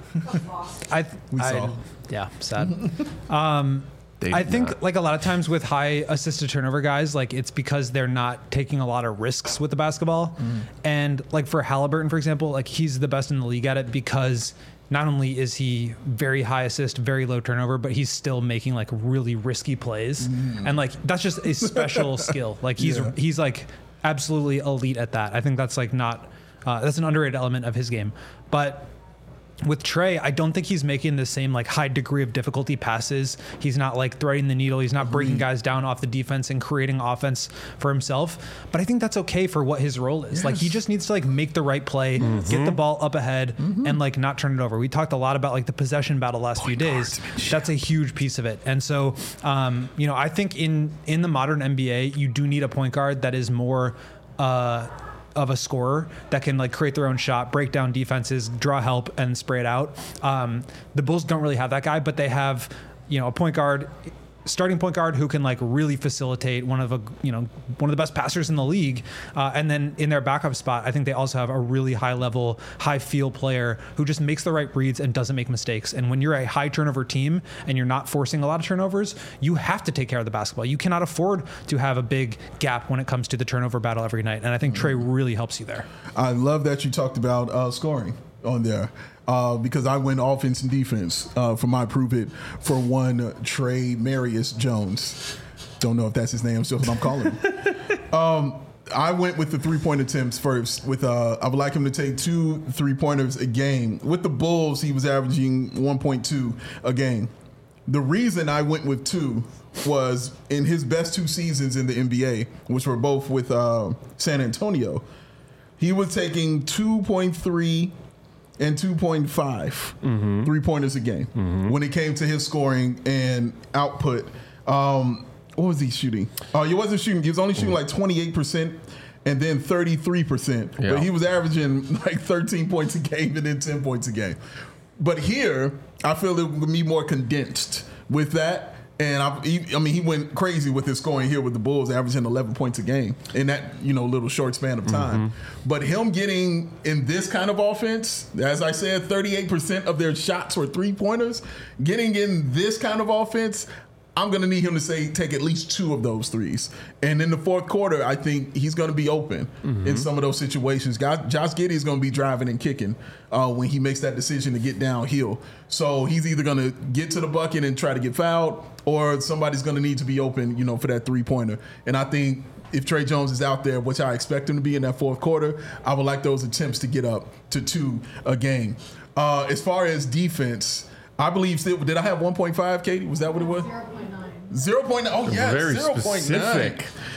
I th- We I- saw. yeah, sad. um, They I did think not. like a lot of times with high assist to turnover guys, like it's because they're not taking a lot of risks with the basketball. And like for Halliburton, for example, like he's the best in the league at it because not only is he very high assist, very low turnover, but he's still making like really risky plays. And like that's just a special skill. Like he's Yeah. he's like absolutely elite at that. I think that's like not uh, that's an underrated element of his game. But with Trey, I don't think he's making the same like high degree of difficulty passes. He's not like threading the needle. He's not breaking guys down off the defense and creating offense for himself. But I think that's okay for what his role is. Like he just needs to like make the right play, get the ball up ahead, and like not turn it over. We talked a lot about like the possession battle last few days. That's a huge piece of it. And so, um, you know, I think in in the modern N B A, you do need a point guard that is more. Uh, of a scorer that can like create their own shot, break down defenses, draw help, and spray it out. Um, the Bulls don't really have that guy, but they have, you know, a point guard, starting point guard who can like really facilitate, one of a you know one of the best passers in the league. Uh, and then in their backup spot, I think they also have a really high level, high feel player who just makes the right reads and doesn't make mistakes. And when you're a high turnover team and you're not forcing a lot of turnovers, you have to take care of the basketball. You cannot afford to have a big gap when it comes to the turnover battle every night. And I think Trey really helps you there. I love that you talked about uh, scoring on there uh, because I went offense and defense uh, for my prove it for one uh, Trey Marius Jones. Don't know if that's his name. It's just what I'm calling him. um, I went with the three-point attempts first. With uh, I would like him to take two three-pointers a game. With the Bulls, he was averaging one point two a game. The reason I went with two was in his best two seasons in the N B A, which were both with uh, San Antonio, he was taking two point three and two point five Mm-hmm. three-pointers a game when it came to his scoring and output. Um, what was he shooting? Uh, he wasn't shooting. He was only shooting like twenty-eight percent and then thirty-three percent. Yeah. But he was averaging like thirteen points a game and then ten points a game. But here, I feel it would be more condensed with that. And I, he, I mean, he went crazy with his scoring here with the Bulls, averaging eleven points a game in that you know little short span of time. But him getting in this kind of offense, as I said, thirty-eight percent of their shots were three pointers. Getting in this kind of offense, I'm going to need him to say take at least two of those threes. And in the fourth quarter, I think he's going to be open in some of those situations. Josh Giddey is going to be driving and kicking uh, when he makes that decision to get downhill. So he's either going to get to the bucket and try to get fouled, or somebody's going to need to be open, you know, for that three-pointer. And I think if Trey Jones is out there, which I expect him to be in that fourth quarter, I would like those attempts to get up to two a game. Uh, as far as defense, I believe, did I have one point five, Katie? Was that what it was? zero point nine. Oh, yeah, Very zero point nine. specific.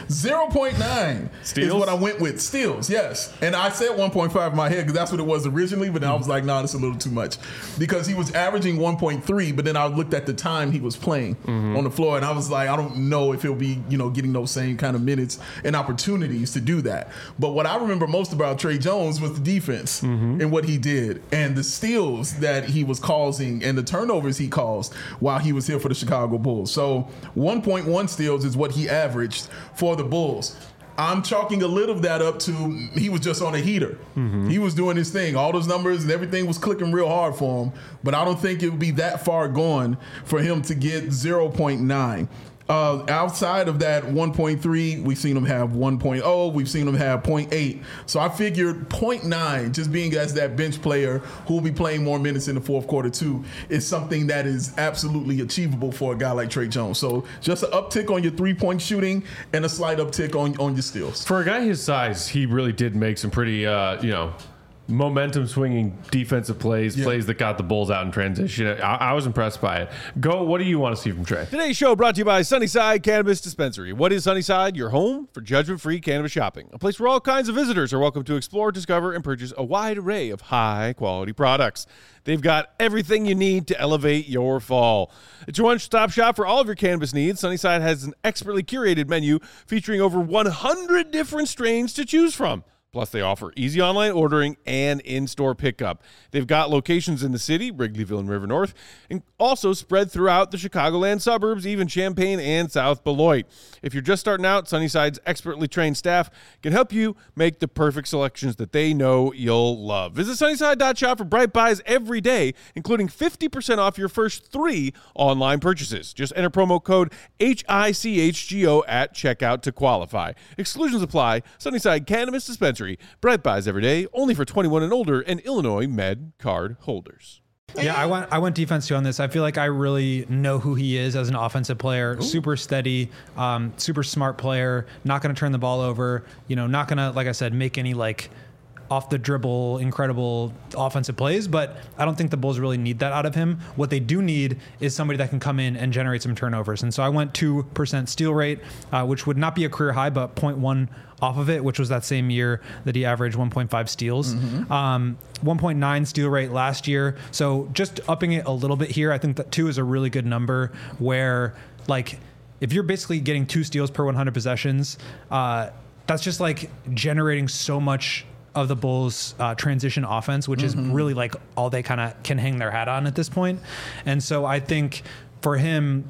zero point nine Steals? is what I went with. Steals, yes. And I said one point five in my head because that's what it was originally, but then I was like, nah, that's a little too much. Because he was averaging one point three, but then I looked at the time he was playing mm-hmm. on the floor, and I was like, I don't know if he'll be, you know, getting those same kind of minutes and opportunities to do that. But what I remember most about Tre Jones was the defense mm-hmm. and what he did, and the steals that he was causing and the turnovers he caused while he was here for the Chicago Bulls. So one point one steals is what he averaged for the Bulls. I'm chalking a little of that up to he was just on a heater. Mm-hmm. He was doing his thing. All those numbers and everything was clicking real hard for him. But I don't think it would be that far gone for him to get zero point nine. Uh, outside of that one point three, we've seen him have one point oh, we've seen him have zero point eight. So I figured zero point nine, just being as that bench player who will be playing more minutes in the fourth quarter too, is something that is absolutely achievable for a guy like Tre Jones. So just an uptick on your three-point shooting and a slight uptick on, on your steals. For a guy his size, he really did make some pretty, uh, you know, momentum swinging defensive plays, yeah. plays that got the Bulls out in transition. I, I was impressed by it. Go, what do you want to see from Tre? Today's show brought to you by Sunnyside Cannabis Dispensary. What is Sunnyside? Your home for judgment-free cannabis shopping. A place where all kinds of visitors are welcome to explore, discover, and purchase a wide array of high-quality products. They've got everything you need to elevate your fall. It's your one-stop shop for all of your cannabis needs. Sunnyside has an expertly curated menu featuring over one hundred different strains to choose from. Plus, they offer easy online ordering and in-store pickup. They've got locations in the city, Wrigleyville and River North, and also spread throughout the Chicagoland suburbs, even Champaign and South Beloit. If you're just starting out, Sunnyside's expertly trained staff can help you make the perfect selections that they know you'll love. Visit Sunnyside dot shop for Bright Buys every day, including fifty percent off your first three online purchases. Just enter promo code H I C H G O at checkout to qualify. Exclusions apply. Sunnyside Cannabis Dispensary. Bright Buys every day, only for twenty-one and older and Illinois Med card holders. Yeah, I went I went defense too on this. I feel like I really know who he is as an offensive player. Ooh. Super steady, um, super smart player, not going to turn the ball over, you know, not going to, like I said, make any like off the dribble, incredible offensive plays, but I don't think the Bulls really need that out of him. What they do need is somebody that can come in and generate some turnovers. And so I went two percent steal rate, uh, which would not be a career high, but zero point one off of it, which was that same year that he averaged one point five steals. Mm-hmm. Um, one point nine steal rate last year. So just upping it a little bit here, I think that two is a really good number where, like, if you're basically getting two steals per one hundred possessions, uh, that's just like generating so much of the Bulls uh, transition offense, which mm-hmm. is really like all they kind of can hang their hat on at this point. And so I think for him,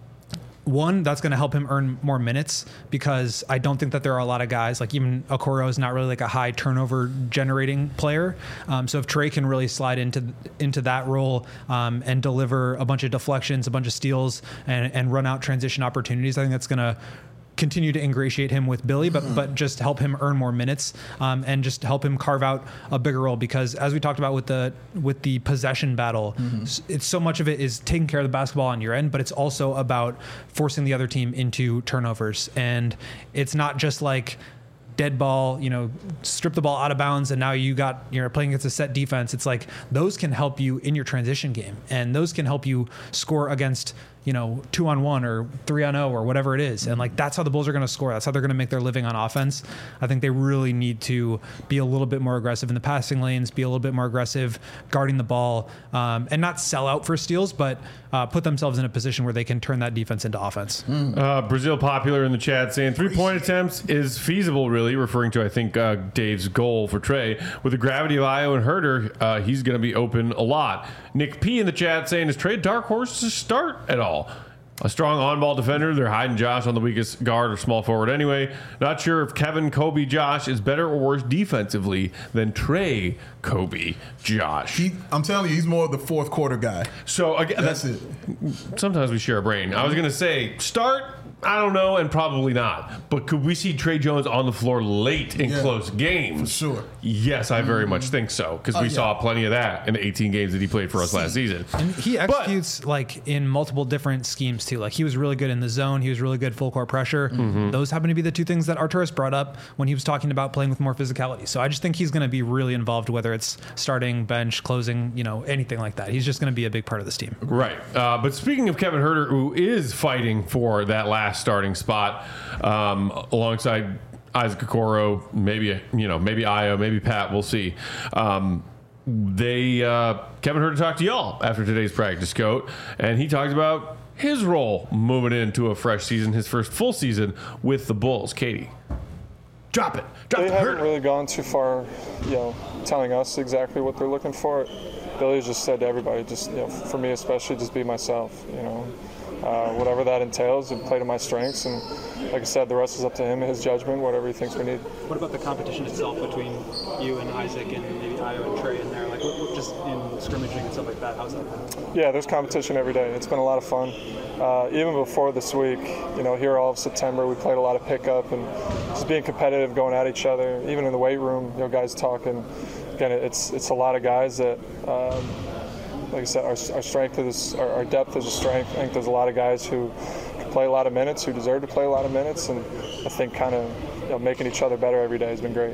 one, that's going to help him earn more minutes because I don't think that there are a lot of guys, like even Okoro is not really like a high turnover generating player. Um, so if Tre can really slide into into that role um, and deliver a bunch of deflections, a bunch of steals, and, and run out transition opportunities, I think that's going to continue to ingratiate him with Billy, but but just help him earn more minutes um, and just help him carve out a bigger role. Because as we talked about with the with the possession battle, mm-hmm. it's so much of it is taking care of the basketball on your end, but it's also about forcing the other team into turnovers. And it's not just like dead ball, you know, strip the ball out of bounds, and now you got, you're playing against a set defense. It's like those can help you in your transition game, and those can help you score against, you know, two on one or three on oh or whatever it is. And like, that's how the Bulls are going to score. That's how they're going to make their living on offense. I think they really need to be a little bit more aggressive in the passing lanes, be a little bit more aggressive guarding the ball, um, and not sell out for steals, but uh, put themselves in a position where they can turn that defense into offense. Mm. Uh, Brazil Popular in the chat saying three point attempts is feasible, really, referring to, I think, uh, Dave's goal for Tre. With the gravity of Io and Herter, uh, he's going to be open a lot. Nick P in the chat saying, is Tre a dark horse to start at all? A strong on-ball defender. They're hiding Josh on the weakest guard or small forward anyway. Not sure if Kevin, Kobe, Josh is better or worse defensively than Tre, Kobe, Josh. He, I'm telling you, he's more of the fourth quarter guy. So again, that's, that's it. Sometimes we share a brain. I was going to say start. I don't know, and probably not. But could we see Tre Jones on the floor late in yeah, close games? For sure. Yes, I very mm-hmm. much think so, because we uh, yeah. saw plenty of that in the eighteen games that he played for us last season. And he executes but, like in multiple different schemes too. Like he was really good in the zone. He was really good full court pressure. Mm-hmm. Those happen to be the two things that Arturas brought up when he was talking about playing with more physicality. So I just think he's going to be really involved, whether it's starting, bench, closing, you know, anything like that. He's just going to be a big part of this team. Right. Uh, but speaking of Kevin Herter, who is fighting for that last last starting spot um, alongside Isaac Okoro, maybe you know, maybe Io, maybe Pat. We'll see. Um, they uh, Kevin Huerter talked to y'all after today's practice, Coat, and he talked about his role moving into a fresh season, his first full season with the Bulls. Katie, drop it. Drop they the haven't Huerter. really gone too far, you know, telling us exactly what they're looking for. Billy just said to everybody, just you know, for me especially, just be myself. You know, uh, whatever that entails, and play to my strengths. And like I said, the rest is up to him and his judgment, whatever he thinks we need. What about the competition itself between you and Isaac and maybe Io and Trey in there? Like, what, what, just in scrimmaging and stuff like that, how's that been? Yeah, there's competition every day. It's been a lot of fun. Uh, even before this week, you know, here all of September, we played a lot of pickup and just being competitive, going at each other. Even in the weight room, you know, guys talking. Again, it's it's a lot of guys that, um, like I said, our, our strength is our, our depth is a strength. I think there's a lot of guys who can play a lot of minutes, who deserve to play a lot of minutes, and I think kind of you know, making each other better every day has been great.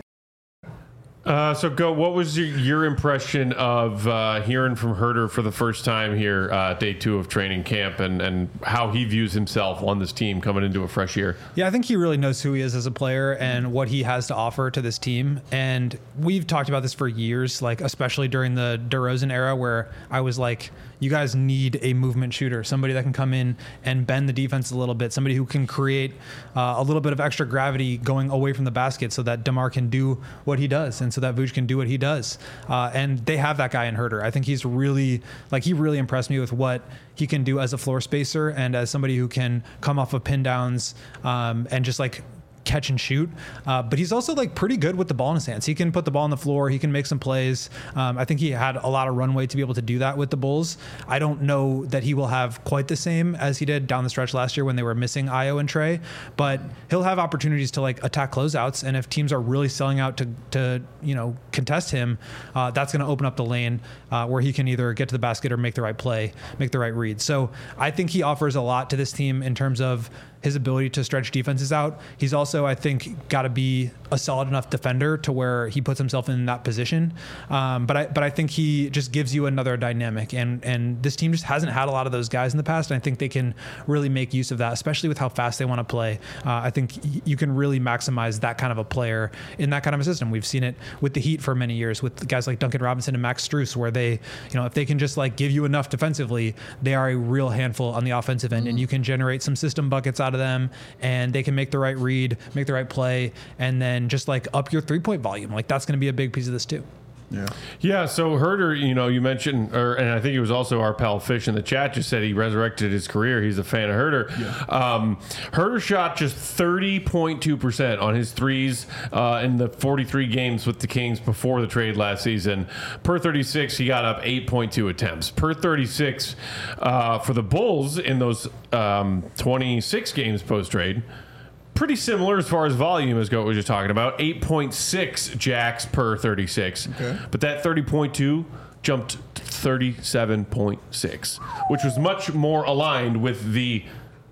Uh, so, Go, what was your, your impression of uh, hearing from Huerter for the first time here, uh, day two of training camp, and, and how he views himself on this team coming into a fresh year? Yeah, I think he really knows who he is as a player and what he has to offer to this team. And we've talked about this for years, like especially during the DeRozan era, where I was like, you guys need a movement shooter, somebody that can come in and bend the defense a little bit, somebody who can create uh, a little bit of extra gravity going away from the basket so that DeMar can do what he does and so that Vooch can do what he does. Uh, and they have that guy in Huerter. I think he's really, like, he really impressed me with what he can do as a floor spacer and as somebody who can come off of pin downs um, and just like catch and shoot, uh, but he's also like pretty good with the ball in his hands. He can put the ball on the floor. He can make some plays. Um, I think he had a lot of runway to be able to do that with the Bulls. I don't know that he will have quite the same as he did down the stretch last year when they were missing Io and Trey, but he'll have opportunities to like attack closeouts. And if teams are really selling out to, to you know, contest him, uh, that's going to open up the lane uh, where he can either get to the basket or make the right play, make the right read. So I think he offers a lot to this team in terms of his ability to stretch defenses out. He's also, I think, got to be a solid enough defender to where he puts himself in that position. Um, but I, but I think he just gives you another dynamic, and and this team just hasn't had a lot of those guys in the past. And I think they can really make use of that, especially with how fast they want to play. Uh, I think you can really maximize that kind of a player in that kind of a system. We've seen it with the Heat for many years with guys like Duncan Robinson and Max Strus, where they, you know, if they can just like give you enough defensively, they are a real handful on the offensive end, mm-hmm. and you can generate some system buckets out of them, and they can make the right read, make the right play, and then just like up your three-point volume. Like that's going to be a big piece of this too. Yeah. Yeah. So Huerter, you know, you mentioned, or and I think it was also our pal Fish in the chat just said he resurrected his career. He's a fan of Huerter. Yeah. Um, Huerter shot just thirty point two percent on his threes uh, in the forty-three games with the Kings before the trade last season. Per thirty-six, he got up eight point two attempts. Per thirty-six uh, for the Bulls in those um, twenty-six games post-trade. Pretty similar as far as volume as Goat was just talking about. eight point six jacks per thirty-six. Okay. But that thirty point two jumped to thirty-seven point six, which was much more aligned with the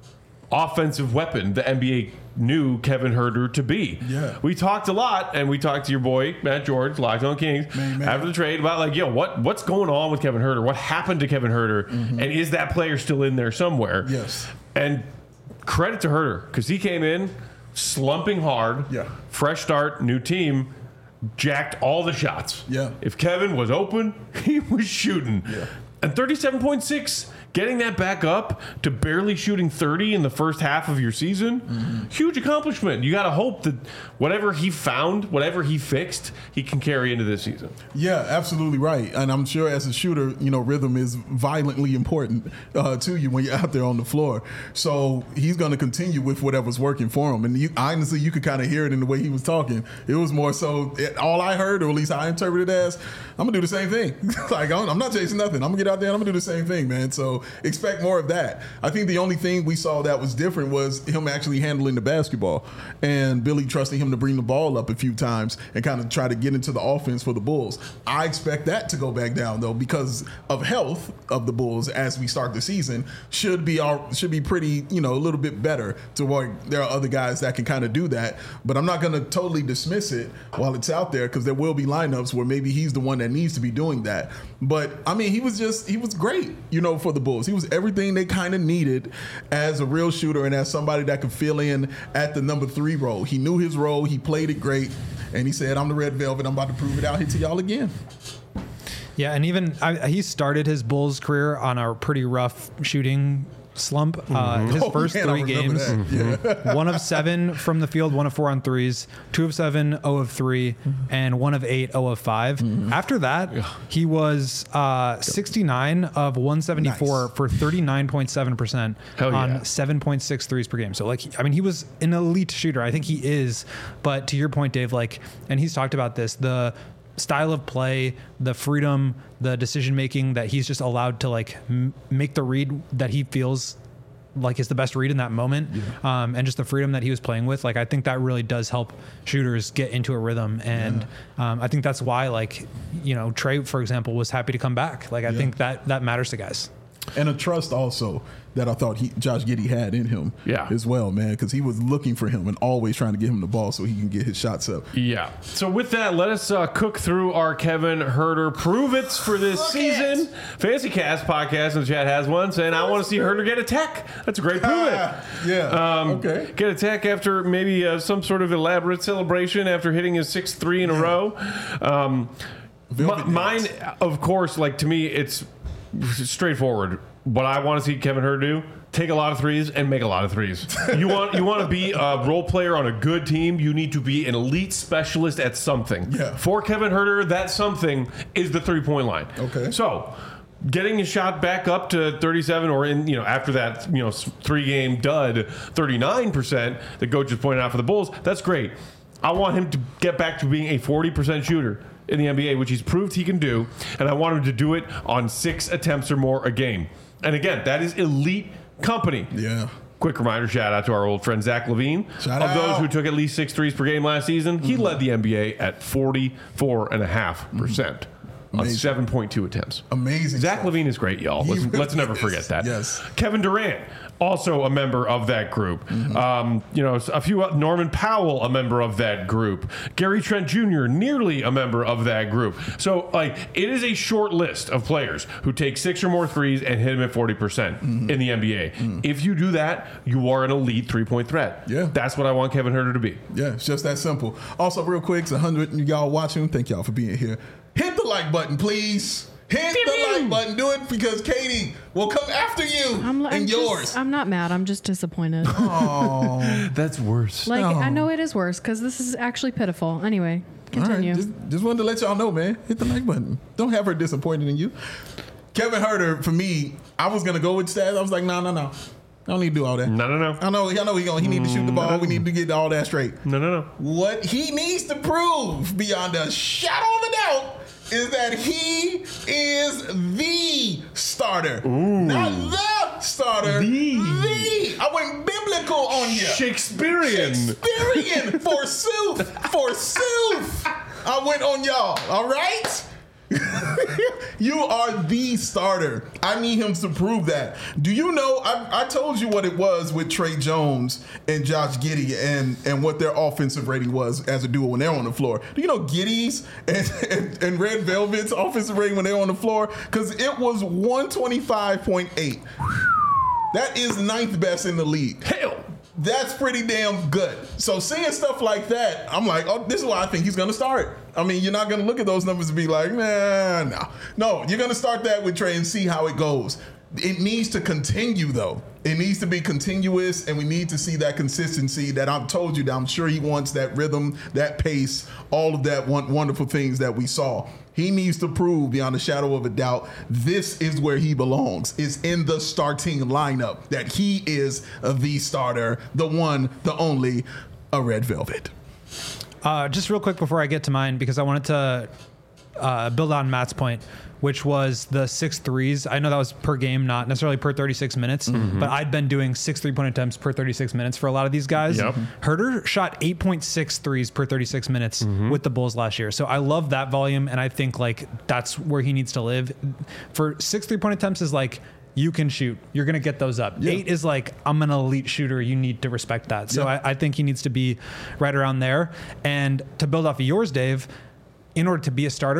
offensive weapon the N B A knew Kevin Huerter to be. Yeah. We talked a lot, and we talked to your boy, Matt George, Locked On Kings, man, man. after the trade about, like, yo, what what's going on with Kevin Huerter? What happened to Kevin Huerter? Mm-hmm. And is that player still in there somewhere? Yes. And credit to Huerter, because he came in slumping hard, yeah. fresh start, new team, jacked all the shots. Yeah. If Kevin was open, he was shooting. Yeah. And thirty-seven point six, getting that back up to barely shooting thirty in the first half of your season, mm-hmm. huge accomplishment. You got to hope that whatever he found, whatever he fixed, he can carry into this season. Yeah, absolutely right. And I'm sure as a shooter, you know, rhythm is violently important uh, to you when you're out there on the floor. So he's going to continue with whatever's working for him. And you, honestly, you could kind of hear it in the way he was talking. It was more so, it, all I heard, or at least I interpreted it as, I'm going to do the same thing. Like, I'm not chasing nothing. I'm going to get out there and I'm going to do the same thing, man. So expect more of that. I think the only thing we saw that was different was him actually handling the basketball and Billy trusting him to bring the ball up a few times and kind of try to get into the offense for the Bulls. I expect that to go back down, though, because of health of the Bulls as we start the season should be all, should be pretty, you know, a little bit better to where there are other guys that can kind of do that. But I'm not going to totally dismiss it while it's out there, because there will be lineups where maybe he's the one that needs to be doing that. But I mean, he was just he was great, you know, for the Bulls. Bulls. He was everything they kind of needed as a real shooter and as somebody that could fill in at the number three role. He knew his role. He played it great. And he said, I'm the Red Velvet. I'm about to prove it out here to y'all again. Yeah, and even I, he started his Bulls career on a pretty rough shooting slump. Mm-hmm. Uh, his oh, first man, three games, mm-hmm. one of seven from the field, one of four on threes, two of seven, zero of three, mm-hmm. and one of eight, zero of five. Mm-hmm. After that, he was uh, sixty-nine of one seventy-four nice. For thirty-nine point seven percent on yeah. seven point six threes per game. So, like, I mean, he was an elite shooter. I think he is. But to your point, Dave, like, and he's talked about this, the style of play, the freedom, the decision making that he's just allowed to like m- make the read that he feels like is the best read in that moment, yeah. um, and just the freedom that he was playing with. Like, I think that really does help shooters get into a rhythm, and yeah. um, I think that's why, like, you know, Trey, for example, was happy to come back. Like, I yeah. think that that matters to guys. And a trust also that I thought he, Josh Giddey had in him yeah. as well, man, because he was looking for him and always trying to get him the ball so he can get his shots up. Yeah. So with that, let us uh, cook through our Kevin Huerter prove-its for this Look season. It. Fantasy Cast podcast in the chat has one saying, I want to see Huerter get a tech. That's a great prove-it. yeah. Um, okay. Get a tech after maybe uh, some sort of elaborate celebration after hitting his sixth three in yeah. a row. Um, m- mine, of course, like to me, it's straightforward. What I want to see Kevin Huerter do, take a lot of threes and make a lot of threes. You want you want to be a role player on a good team, you need to be an elite specialist at something. Yeah. For Kevin Huerter, that something is the three-point line. Okay. So, getting his shot back up to thirty-seven, or in, you know, after that, you know, three-game dud, thirty-nine percent that Coach just pointed out for the Bulls, that's great. I want him to get back to being a forty percent shooter in the N B A, which he's proved he can do, and I want him to do it on six attempts or more a game. And again, that is elite company. Yeah. Quick reminder, shout out to our old friend Zach LaVine. Shout of out. those who took at least six threes per game last season, he mm-hmm. led the N B A at forty-four point five percent. Mm-hmm. On seven point two attempts. Amazing. Zach stuff. LaVine is great, y'all. Let's, really let's never is. forget that. Yes. Kevin Durant, also a member of that group. Mm-hmm. Um, you know, a few. Norman Powell, a member of that group. Gary Trent Junior, nearly a member of that group. So, like, it is a short list of players who take six or more threes and hit them at forty percent mm-hmm. in the N B A. Mm-hmm. If you do that, you are an elite three-point threat. Yeah. That's what I want Kevin Huerter to be. Yeah, it's just that simple. Also, real quick, it's one hundred y'all watching. Thank y'all for being here. Hit the like button, please. Hit Pew, the pew. like button. Do it because Katie will come after you I'm, I'm and just, yours. I'm not mad. I'm just disappointed. Oh, that's worse. Like, no. I know it is worse because this is actually pitiful. Anyway, continue. All right, just, just wanted to let y'all know, man. Hit the like button. Don't have her disappointed in you. Kevin Huerter, for me, I was going to go with stats. I was like, no, no, no. I don't need to do all that. No, no, no. I know, I know he going. He need to shoot the ball. We need to get all that straight. No, no, no. What he needs to prove beyond a shadow of a doubt is that he is the starter. Ooh. Not the starter. The. The. I went biblical on you. Shakespearean. Shakespearean. Forsooth. Forsooth. I went on y'all. All right? You are the starter. I need him to prove that. Do you know, I, I told you what it was with Trey Jones and Josh Giddey and, and what their offensive rating was as a duo when they're on the floor. Do you know Giddey's and, and, and Red Velvet's offensive rating when they're on the floor? Because it was one twenty-five point eight. That is ninth best in the league. Hell. That's pretty damn good. So seeing stuff like that, I'm like, oh, this is why I think he's going to start. I mean, you're not going to look at those numbers and be like, nah, no. No, you're going to start that with Trey and see how it goes. It needs to continue, though. It needs to be continuous, and we need to see that consistency that I've told you that I'm sure he wants, that rhythm, that pace, all of that wonderful things that we saw. He needs to prove beyond a shadow of a doubt this is where he belongs, is in the starting lineup, that he is the starter, the one, the only, a Red Velvet. Uh, just real quick before I get to mine, because I wanted to uh, build on Matt's point, which was the six threes. I know that was per game, not necessarily per thirty-six minutes, mm-hmm. but I'd been doing six three-point attempts per thirty-six minutes for a lot of these guys. Yep. Huerter shot eight point six threes per thirty-six minutes mm-hmm. with the Bulls last year. So I love that volume, and I think like that's where he needs to live. For six three-point attempts is like, you can shoot. You're going to get those up. Yeah. Eight is like, I'm an elite shooter. You need to respect that. So yeah. I, I think he needs to be right around there. And to build off of yours, Dave, in order to be a starter,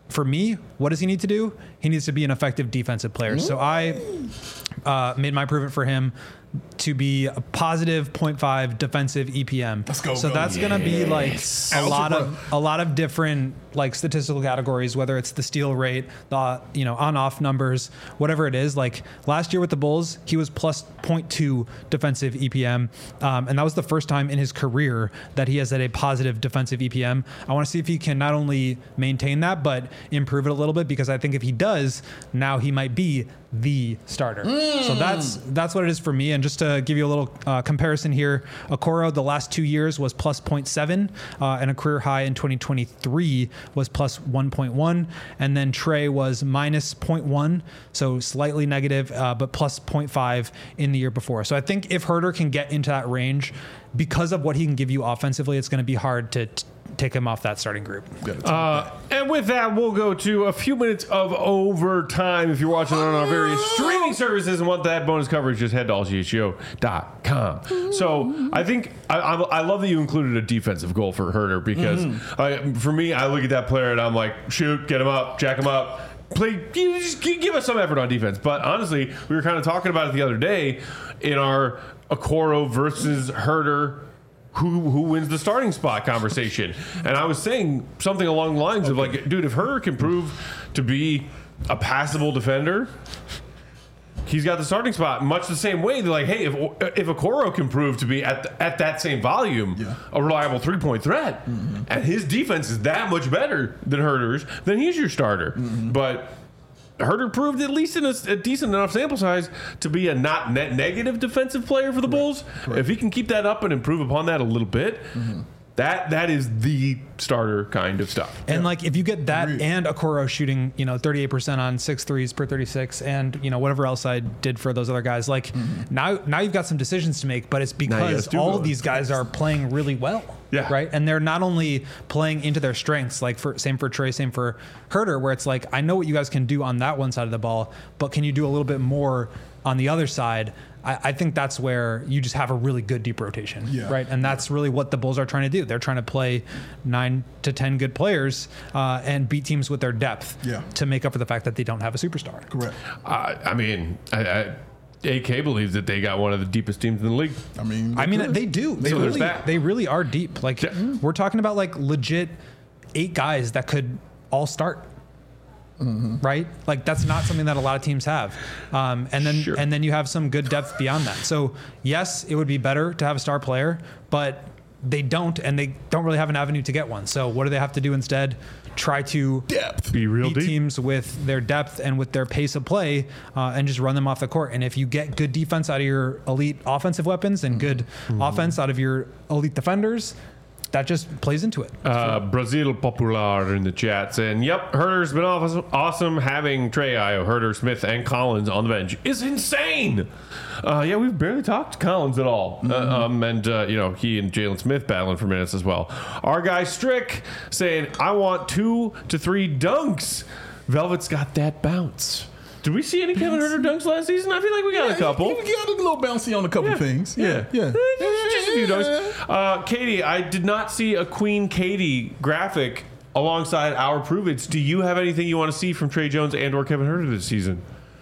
for me, what does he need to do? He needs to be an effective defensive player. So I uh, made my improvement for him to be a positive zero point five defensive E P M. Let's go. So go. that's yes. going to be like a Algebra. lot of a lot of different like statistical categories, whether it's the steal rate, the you know on-off numbers, whatever it is. Like last year with the Bulls, he was plus zero point two defensive E P M, um, and that was the first time in his career that he has had a positive defensive E P M. I want to see if he can not only maintain that but improve it a little bit, because I think if he does, now he might be the starter. Mm. So that's that's what it is for me. And just to give you a little uh, comparison here, Okoro the last two years was plus zero point seven, uh, and a career high in twenty twenty-three was plus one point one, and then Trey was minus zero point one, so slightly negative, uh, but plus zero point five in the year before. So I think if Huerter can get into that range, because of what he can give you offensively, it's going to be hard to t- take him off that starting group. Uh, and with that, we'll go to a few minutes of overtime. If you're watching on our various streaming services and want that bonus coverage, just head to all g h o dot com. So I think I, I, I love that you included a defensive goal for Huerter, because mm-hmm. I, for me, I look at that player and I'm like, shoot, get him up, jack him up. Play, just give us some effort on defense. But honestly, we were kind of talking about it the other day in our Okoro versus Huerter who who wins the starting spot conversation. And I was saying something along the lines okay. of like, dude, if Huerter can prove to be a passable defender, he's got the starting spot. Much the same way, they're like, hey, if if Okoro can prove to be at the, at that same volume, yeah. a reliable three-point threat, mm-hmm. and his defense is that much better than Huerter's, then he's your starter. Mm-hmm. But Huerter proved, at least in a, a decent enough sample size, to be a not net negative defensive player for the right. Bulls. Right. If he can keep that up and improve upon that a little bit, mm-hmm. that that is the starter kind of stuff. And yeah. like if you get that Agreed. and Okoro shooting, you know, thirty-eight percent on six threes per thirty-six, and you know whatever else I did for those other guys, like mm-hmm. now now you've got some decisions to make, but it's because all of these guys are playing really well. Yeah. Right. And they're not only playing into their strengths, like for same for Trey, same for Huerter, where it's like, I know what you guys can do on that one side of the ball, but can you do a little bit more on the other side? I, I think that's where you just have a really good deep rotation. Yeah. Right. And that's really what the Bulls are trying to do. They're trying to play nine to ten good players uh, and beat teams with their depth yeah. to make up for the fact that they don't have a superstar. Correct. Uh, I mean, I, I A K believes that they got one of the deepest teams in the league. I mean, I mean, they do. They so really, they really are deep. Like yeah. we're talking about like legit eight guys that could all start. Mm-hmm. Right? Like that's not something that a lot of teams have. Um, and then sure. and then you have some good depth beyond that. So yes, it would be better to have a star player, but they don't, and they don't really have an avenue to get one. So what do they have to do instead? Try to depth. Be real beat deep. teams with their depth and with their pace of play, uh, and just run them off the court. And if you get good defense out of your elite offensive weapons and good mm-hmm. offense out of your elite defenders, that just plays into it. Uh, Brazil Popular in the chat saying, yep, Huerter's been awesome, awesome having Trey, Ayo, Huerter, Smith, and Collins on the bench is insane. Uh, yeah, we've barely talked Collins at all. Mm-hmm. Uh, um, and, uh, you know, he and Jalen Smith battling for minutes as well. Our guy Strick saying, I want two to three dunks. Velvet's got that bounce. Did we see any Kevin Huerter dunks last season? I feel like we got yeah, a couple. We got a little bouncy on a couple yeah. things. Yeah, yeah. yeah. Just a few dunks. Uh, Katie, I did not see a Queen Katie graphic alongside our prove-its. Do you have anything you want to see from Trey Jones and or Kevin Huerter this season?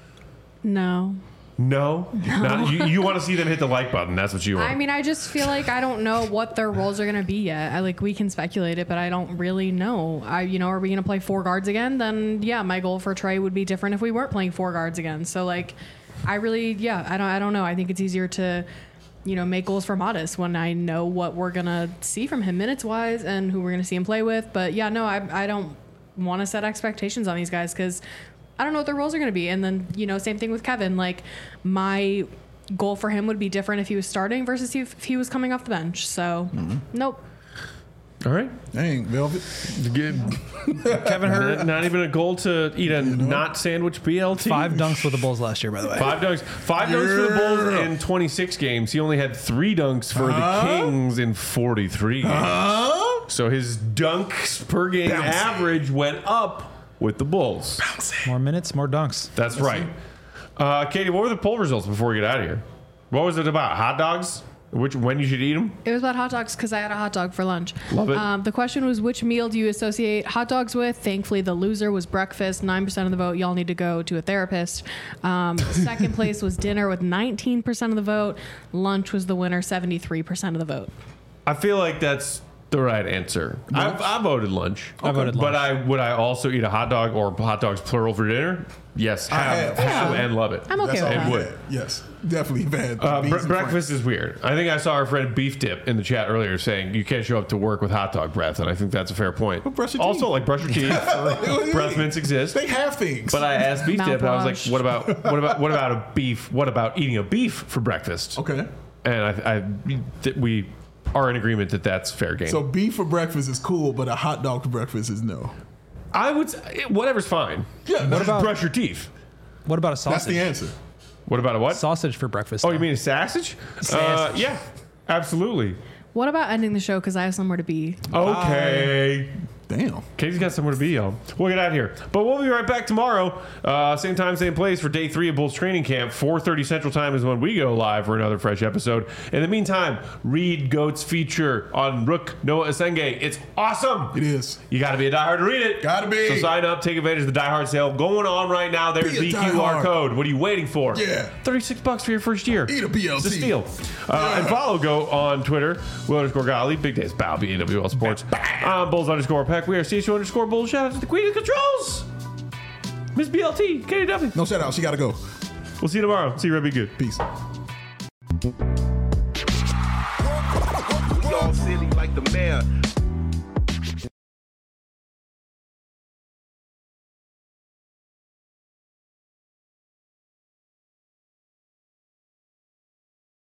No. No? No. Not, you, you want to see them hit the like button. That's what you want. I mean, I just feel like I don't know what their roles are going to be yet. I like we can speculate it, but I don't really know. I, you know, are we going to play four guards again? Then yeah, my goal for Trey would be different if we weren't playing four guards again. So like, I really, yeah, I don't, I don't know. I think it's easier to, you know, make goals for Modest when I know what we're going to see from him minutes wise and who we're going to see him play with. But yeah, no, I, I don't want to set expectations on these guys because I don't know what their roles are going to be. And then, you know, same thing with Kevin. Like, my goal for him would be different if he was starting versus if he was coming off the bench. So, mm-hmm. nope. All right. Dang, Velvet. Good. Kevin Huerter. Not, not even a goal to eat a you know? not sandwich B L T. Five dunks for the Bulls last year, by the way. Five dunks. Five yeah. dunks for the Bulls in twenty-six games. He only had three dunks for uh? the Kings in forty-three games. Uh? So his dunks per game Bouncy. average went up with the Bulls. Bouncy. More minutes, more dunks. That's right. Uh, Katie, what were the poll results before we get out of here? What was it about? Hot dogs? Which when you should eat them? It was about hot dogs because I had a hot dog for lunch. Love it. Um, the question was, which meal do you associate hot dogs with? Thankfully, the loser was breakfast. nine percent of the vote. Y'all need to go to a therapist. Um, second place was dinner with nineteen percent of the vote. Lunch was the winner, seventy-three percent of the vote. I feel like that's the right answer. I, I voted lunch. I voted But lunch. I would I also eat a hot dog or hot dogs plural for dinner? Yes, I have, have. have and love it. I'm okay That's with all that. we would. had. Yes, definitely had. Uh, beans bre- and breakfast is weird. I think I saw our friend Beef Dip in the chat earlier saying you can't show up to work with hot dog breath, and I think that's a fair point. But brush your also, teeth. like brush your teeth. Breath mints exist. They have things. But I asked Beef Dip, and I was like, Mouthwash. "What about what about what about a beef? What about eating a beef for breakfast?" okay. And I, I th- we are in agreement that that's fair game. So beef for breakfast is cool, but a hot dog for breakfast is no. I would say, whatever's fine. Yeah, What that's, about brush your teeth? What about a sausage? that's the answer. What about a what? Sausage for breakfast. Oh, you mean a sausage? Uh, yeah, absolutely. What about ending the show because I have somewhere to be? Okay. Damn. Katie's got somewhere to be, y'all. We'll get out of here. But we'll be right back tomorrow. Uh, same time, same place for day three of Bulls training camp. four thirty Central Time is when we go live for another fresh episode. In the meantime, read Goat's feature on Rook Noah Asenge. It's awesome. It is. You got to be a diehard to read it. Gotta be. So sign up, take advantage of the diehard sale going on right now. There's Be a the Q R diehard. code. What are you waiting for? Yeah. thirty-six bucks for your first year. Eat a B L T. It's a steal. Uh, and follow Go on Twitter. Will underscore Golly. Big Days Bow. B A W L Sports. I'm Bulls underscore Peck. We are C S U underscore Bulls. Shout out to the Queen of Controls. Miss B L T. Katie W. No shout out. She gotta go. We'll see you tomorrow. See you, Red. Be good. Peace. We all silly like the mayor.